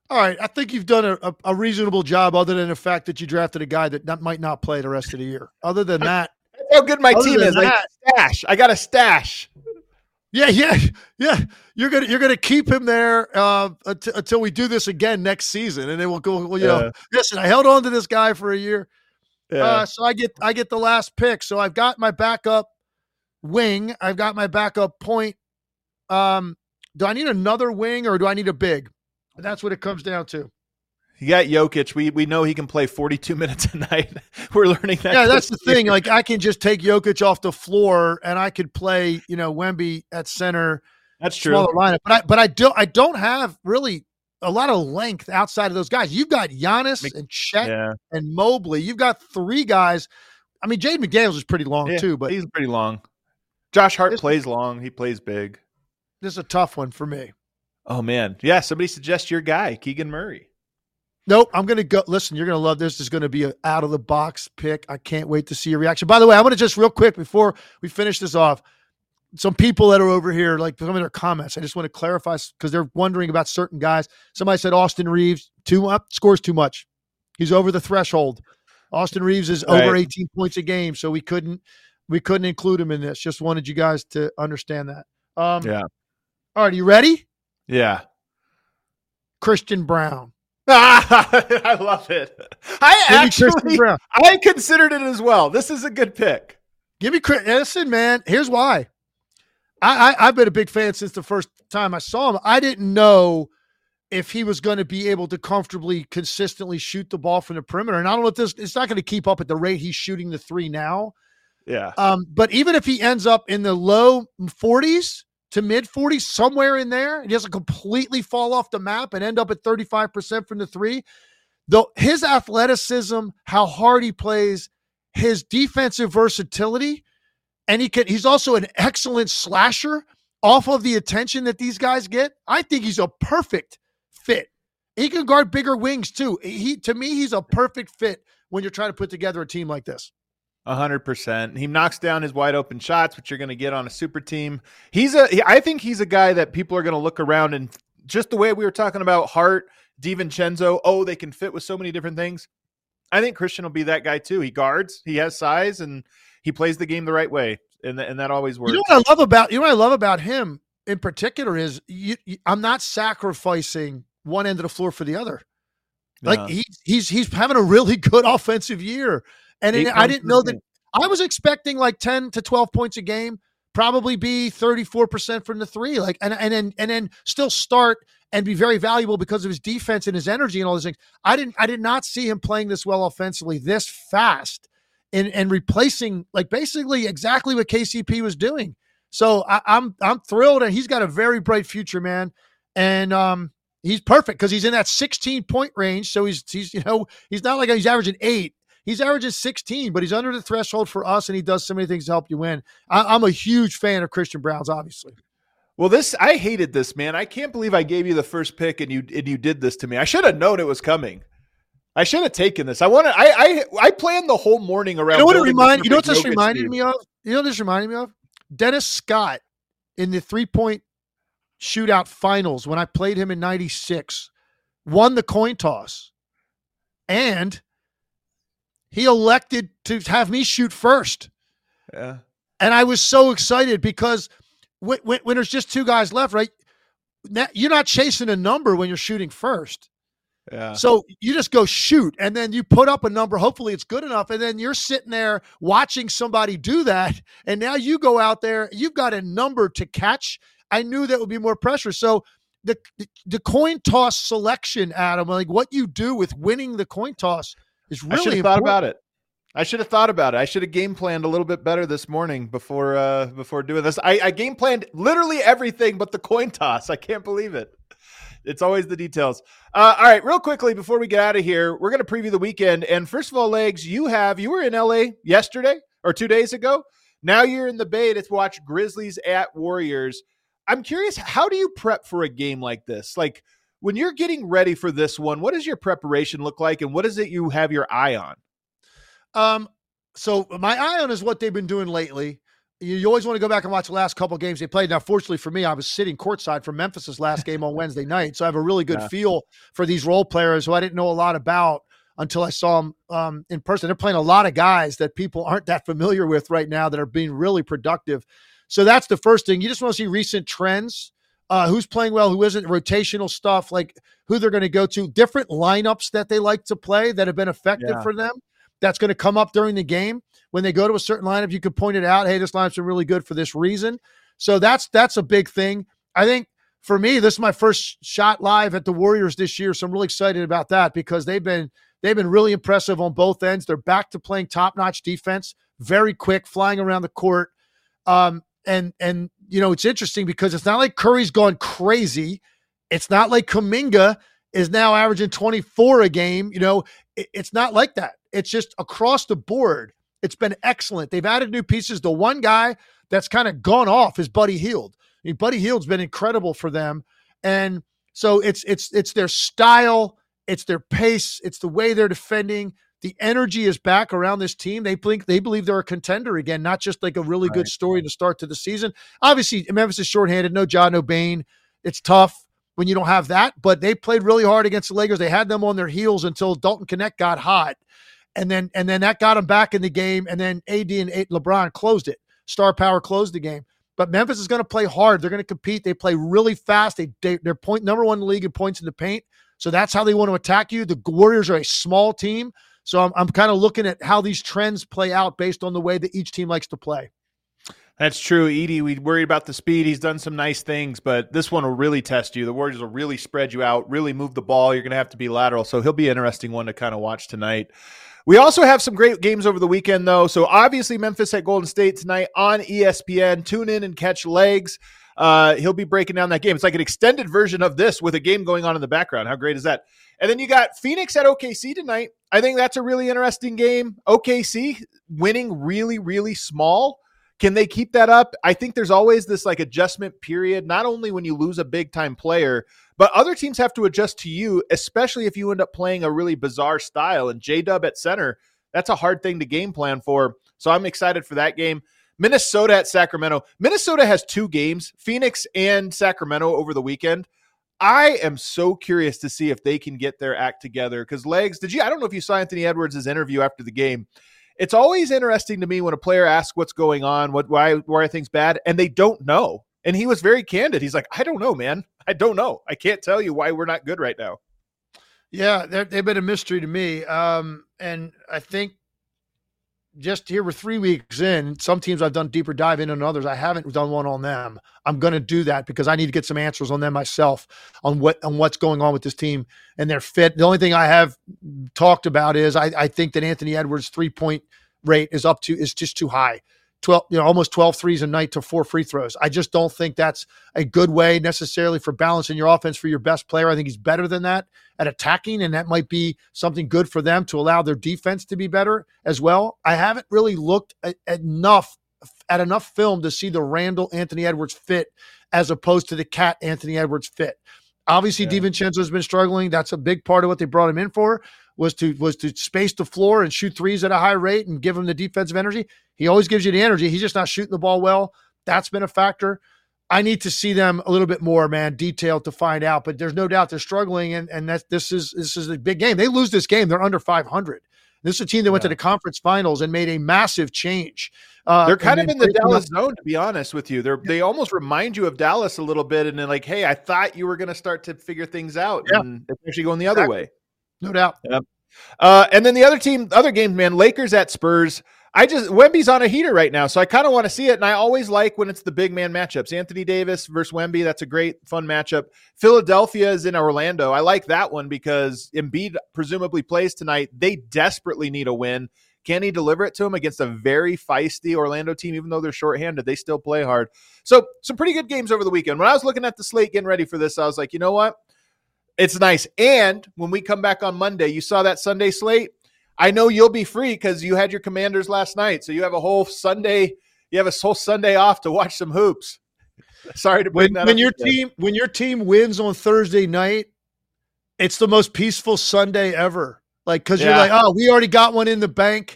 All right, I think you've done a reasonable job, other than the fact that you drafted a guy that might not play the rest of the year. Other than that, that's how good my team is. I got a stash. Yeah. You're gonna keep him there until we do this again next season, and then we'll go. Well, listen, I held on to this guy for a year, so I get the last pick. So I've got my backup wing. I've got my backup point. Do I need another wing or do I need a big? That's what it comes down to. You got Jokic. We know he can play 42 minutes a night. We're learning that. Yeah, that's the thing. Like, I can just take Jokic off the floor and I could play, Wemby at center. That's true. Smaller lineup. But I don't have really a lot of length outside of those guys. You've got Giannis and Chet and Mobley. You've got three guys. I mean, Jaden McDaniels is pretty long too, but he's pretty long. Josh Hart plays long. He plays big. This is a tough one for me. Oh, man. Yeah, somebody suggest your guy, Keegan Murray. Nope, I'm going to go. Listen, you're going to love this. This is going to be an out-of-the-box pick. I can't wait to see your reaction. By the way, I want to just real quick before we finish this off, some people that are over here, like some of their comments, I just want to clarify because they're wondering about certain guys. Somebody said Austin Reeves scores too much. He's over the threshold. Austin Reeves is over 18 points a game, so we couldn't include him in this. Just wanted you guys to understand that. Yeah. All right, you ready? Yeah. Christian Braun. I love it. I considered it as well. This is a good pick. Give me credit. Listen, man, here's why. I've been a big fan since the first time I saw him. I didn't know if he was going to be able to comfortably, consistently shoot the ball from the perimeter. And I don't know if it's not going to keep up at the rate he's shooting the three now. Yeah. But even if he ends up in the low 40s to mid 40s, somewhere in there, he doesn't completely fall off the map and end up at 35% from the three, though his athleticism, how hard he plays, his defensive versatility, and he's also an excellent slasher off of the attention that these guys get. I think he's a perfect fit. He can guard bigger wings too. To me, he's a perfect fit when you're trying to put together a team like this. 100%. He knocks down his wide open shots, which you're going to get on a super team. I think he's a guy that people are going to look around, and just the way we were talking about Hart, DiVincenzo, they can fit with so many different things. I think Christian will be that guy too. He guards, he has size, and he plays the game the right way, and that always works. You know what I love about him in particular is I'm not sacrificing one end of the floor for the other. Like he's having a really good offensive year. And I didn't know that. I was expecting like 10 to 12 points a game, probably be 34% from the three, and then still start and be very valuable because of his defense and his energy and all those things. I did not see him playing this well offensively this fast and replacing like basically exactly what KCP was doing. So I'm thrilled, and he's got a very bright future, man. And he's perfect because he's in that 16-point range. So he's not like he's averaging 8. He's averaging 16, but he's under the threshold for us, and he does so many things to help you win. I'm a huge fan of Christian Braun's, obviously. Well, I hated this, man. I can't believe I gave you the first pick and you did this to me. I should have known it was coming. I should have taken this. I planned the whole morning around. You know what this reminded me of? You know what this reminded me of? Dennis Scott in the 3-point shootout finals when I played him in 96, won the coin toss, and he elected to have me shoot first. Yeah. And I was so excited because when there's just two guys left, right? Now, you're not chasing a number when you're shooting first. Yeah. So you just go shoot, and then you put up a number. Hopefully it's good enough. And then you're sitting there watching somebody do that. And now you go out there, you've got a number to catch. I knew that would be more pressure. So the coin toss selection, Adam, like what you do with winning the coin toss, is really I should have thought about it. I should have thought about it. I should have game planned a little bit better this morning before doing this. I game planned literally everything but the coin toss. I can't believe it. It's always the details. All right, real quickly before we get out of here, we're going to preview the weekend. And first of all, Legs, you were in LA yesterday or 2 days ago. Now you're in the Bay to watch Grizzlies at Warriors. I'm curious, how do you prep for a game like this? Like, when you're getting ready for this one, what does your preparation look like, and what is it you have your eye on? So my eye on is what they've been doing lately. you always want to go back and watch the last couple of games they played. Now, fortunately for me, I was sitting courtside for Memphis's last game on Wednesday night, so I have a really good feel for these role players who I didn't know a lot about until I saw them in person. They're playing a lot of guys that people aren't that familiar with right now that are being really productive. So that's the first thing. You just want to see recent trends. Who's playing well, who isn't, rotational stuff, like who they're going to go to, different lineups that they like to play that have been effective for them. That's going to come up during the game. When they go to a certain lineup, you could point it out. Hey, this lineup's been really good for this reason. So that's a big thing. I think for me, this is my first shot live at the Warriors this year. So I'm really excited about that because they've been really impressive on both ends. They're back to playing top-notch defense, very quick, flying around the court. And it's interesting because it's not like Curry's gone crazy. It's not like Kuminga is now averaging 24 a game. It's not like that. It's just across the board. It's been excellent. They've added new pieces. The one guy that's kind of gone off is Buddy Hield. Buddy Hield's been incredible for them. And so it's their style, it's their pace, it's the way they're defending. The energy is back around this team. They believe they're a contender again, not just like a really good story to start to the season. Obviously, Memphis is shorthanded. No Ja, no Bane. It's tough when you don't have that, but they played really hard against the Lakers. They had them on their heels until Dalton Knecht got hot. And then that got them back in the game. And then AD and LeBron closed it. Star power closed the game. But Memphis is going to play hard. They're going to compete. They play really fast. They're number one in the league in points in the paint. So that's how they want to attack you. The Warriors are a small team. So I'm kind of looking at how these trends play out based on the way that each team likes to play. That's true. Edey, we worried about the speed. He's done some nice things, but this one will really test you. The Warriors will really spread you out, really move the ball. You're going to have to be lateral. So he'll be an interesting one to kind of watch tonight. We also have some great games over the weekend, though. So obviously Memphis at Golden State tonight on ESPN. Tune in and catch Legs. He'll be breaking down that game. It's like an extended version of this with a game going on in the background. How great is that? And then you got Phoenix at OKC tonight. I think that's a really interesting game. OKC winning really, really small. Can they keep that up? I think there's always this like adjustment period, not only when you lose a big time player, but other teams have to adjust to you, especially if you end up playing a really bizarre style. And J-Dub at center, that's a hard thing to game plan for. So I'm excited for that game. Minnesota at Sacramento. Minnesota has 2 games, Phoenix and Sacramento over the weekend. I am so curious to see if they can get their act together because Legs, I don't know if you saw Anthony Edwards' interview after the game. It's always interesting to me when a player asks what's going on, why are things bad, and they don't know. And he was very candid. He's like, I don't know, man. I don't know. I can't tell you why we're not good right now. Yeah, they've been a mystery to me. And I think just here we're 3 weeks in. Some teams I've done deeper dive in and others I haven't done one on them. I'm going to do that because I need to get some answers on them myself on what's going on with this team and their fit. The only thing I have talked about is I think that Anthony Edwards' 3-point rate is just too high. 12, almost 12 threes a night to 4 free throws. I just don't think that's a good way necessarily for balancing your offense for your best player. I think he's better than that at attacking, and that might be something good for them to allow their defense to be better as well. I haven't really looked at enough film to see the Randall Anthony Edwards fit as opposed to the Cat Anthony Edwards fit. Obviously, DiVincenzo's been struggling. That's a big part of what they brought him in for, was to space the floor and shoot threes at a high rate and give him the defensive energy. He always gives you the energy. He's just not shooting the ball well. That's been a factor. I need to see them a little bit more, man, detailed to find out. But there's no doubt they're struggling, and this is a big game. They lose this game, they're under 500. This is a team that went to the conference finals and made a massive change. They're kind of in the Dallas zone, to be honest with you. They almost remind you of Dallas a little bit, and they're like, hey, I thought you were going to start to figure things out, and it's actually going the other way. No doubt. Yep. And then the other game, man, Lakers at Spurs. Wemby's on a heater right now, so I kind of want to see it. And I always like when it's the big man matchups. Anthony Davis versus Wemby, that's a great, fun matchup. Philadelphia is in Orlando. I like that one because Embiid presumably plays tonight. They desperately need a win. Can he deliver it to him against a very feisty Orlando team? Even though they're shorthanded, they still play hard. So some pretty good games over the weekend. When I was looking at the slate getting ready for this, I was like, you know what? It's nice. And when we come back on Monday, you saw that Sunday slate. I know you'll be free because you had your Commanders last night. So you have a whole Sunday. You have a whole Sunday off to watch some hoops. Sorry to bring that up. When your team wins on Thursday night, it's the most peaceful Sunday ever. Like, because you're like, oh, we already got one in the bank.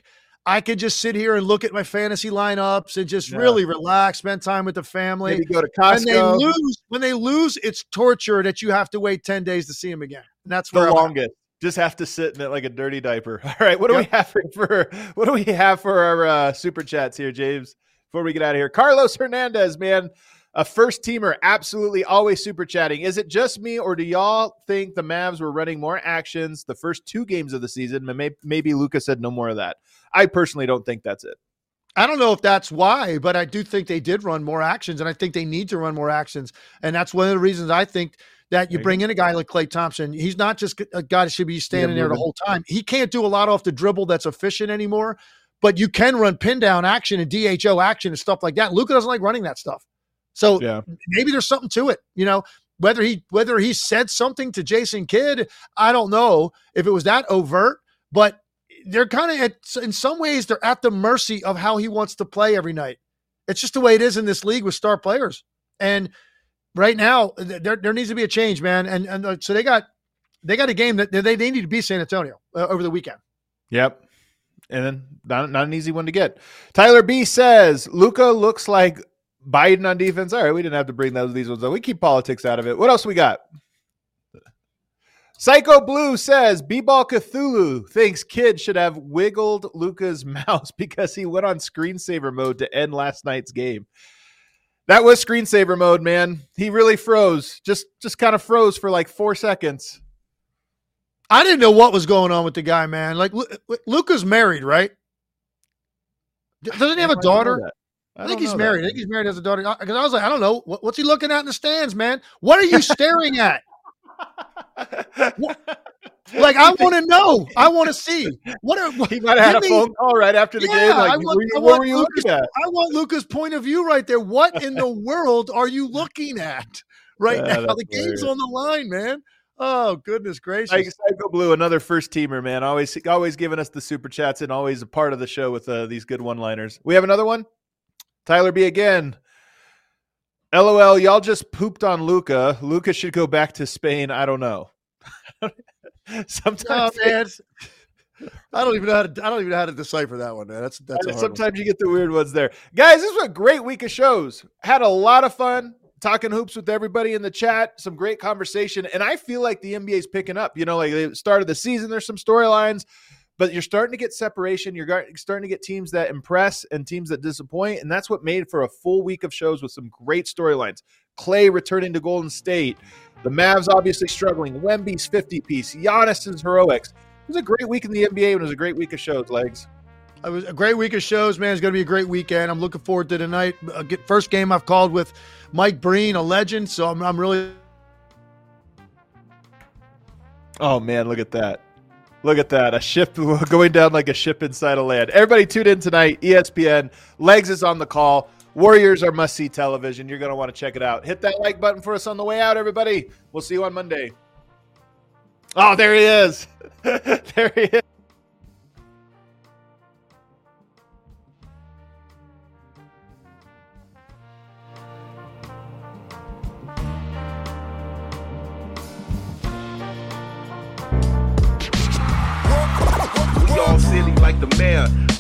I could just sit here and look at my fantasy lineups and just really relax, spend time with the family. Maybe go to Costco. When they lose, it's torture that you have to wait 10 days to see them again. And that's where the longest. Just have to sit in it like a dirty diaper. All right, what do we have for our super chats here, James? Before we get out of here, Carlos Hernandez, man, a first teamer, absolutely always super chatting. Is it just me, or do y'all think the Mavs were running more actions the first 2 games of the season? Maybe Luka said no more of that. I personally don't think that's it. I don't know if that's why, but I do think they did run more actions, and I think they need to run more actions. And that's one of the reasons I think that you bring in a guy like Klay Thompson. He's not just a guy that should be standing there the whole time. He can't do a lot off the dribble that's efficient anymore, but you can run pin down action and DHO action and stuff like that. Luka doesn't like running that stuff. So maybe there's something to it, whether he said something to Jason Kidd, I don't know if it was that overt, but they're kind of in some ways they're at the mercy of how he wants to play every night. It's just the way it is in this league with star players. And right now there needs to be a change, man. And so they got a game that they need to beat San Antonio over the weekend. Yep. And then not an easy one to get. Tyler B says Luka looks like Biden on defense. All right, we didn't have to bring these ones up. We keep politics out of it. What else we got? Psycho Blue says B-Ball Cthulhu thinks Kidd should have wiggled Luka's mouse because he went on screensaver mode to end last night's game. That was screensaver mode, man. He really froze. Just kind of froze for like 4 seconds. I didn't know what was going on with the guy, man. Like Luka's married, right? Doesn't he have a daughter? I think he's married. I think he's married, has a daughter. Because I was like, I don't know. What's he looking at in the stands, man? What are you staring at? Like, I want to know. I want to see. He might have had a phone call right after the game. Like, what were you looking at? I want Luka's point of view right there. What in the world are you looking at right now? The game's on the line, man. Oh, goodness gracious. Psycho Blue, another first teamer, man. Always giving us the super chats and always a part of the show with these good one-liners. We have another one? Tyler B again. LOL, y'all just pooped on Luka. Luka should go back to Spain. I don't know. Sometimes, man, I don't even know how to decipher that one, man. That's sometimes you get the weird ones there. Guys, this was a great week of shows. Had a lot of fun talking hoops with everybody in the chat. Some great conversation, and I feel like the NBA is picking up. Like they started the season, there's some storylines. But you're starting to get separation. You're starting to get teams that impress and teams that disappoint. And that's what made for a full week of shows with some great storylines. Klay returning to Golden State. The Mavs obviously struggling. Wemby's 50-piece. Giannis's heroics. It was a great week in the NBA and it was a great week of shows, Legs. It was a great week of shows, man. It's going to be a great weekend. I'm looking forward to tonight. First game I've called with Mike Breen, a legend. So I'm really. Oh, man, look at that. Look at that. A ship going down like a ship inside a land. Everybody tune in tonight. ESPN. Legs is on the call. Warriors are must-see television. You're going to want to check it out. Hit that like button for us on the way out, everybody. We'll see you on Monday. Oh, there he is. There he is. Silly like the mayor.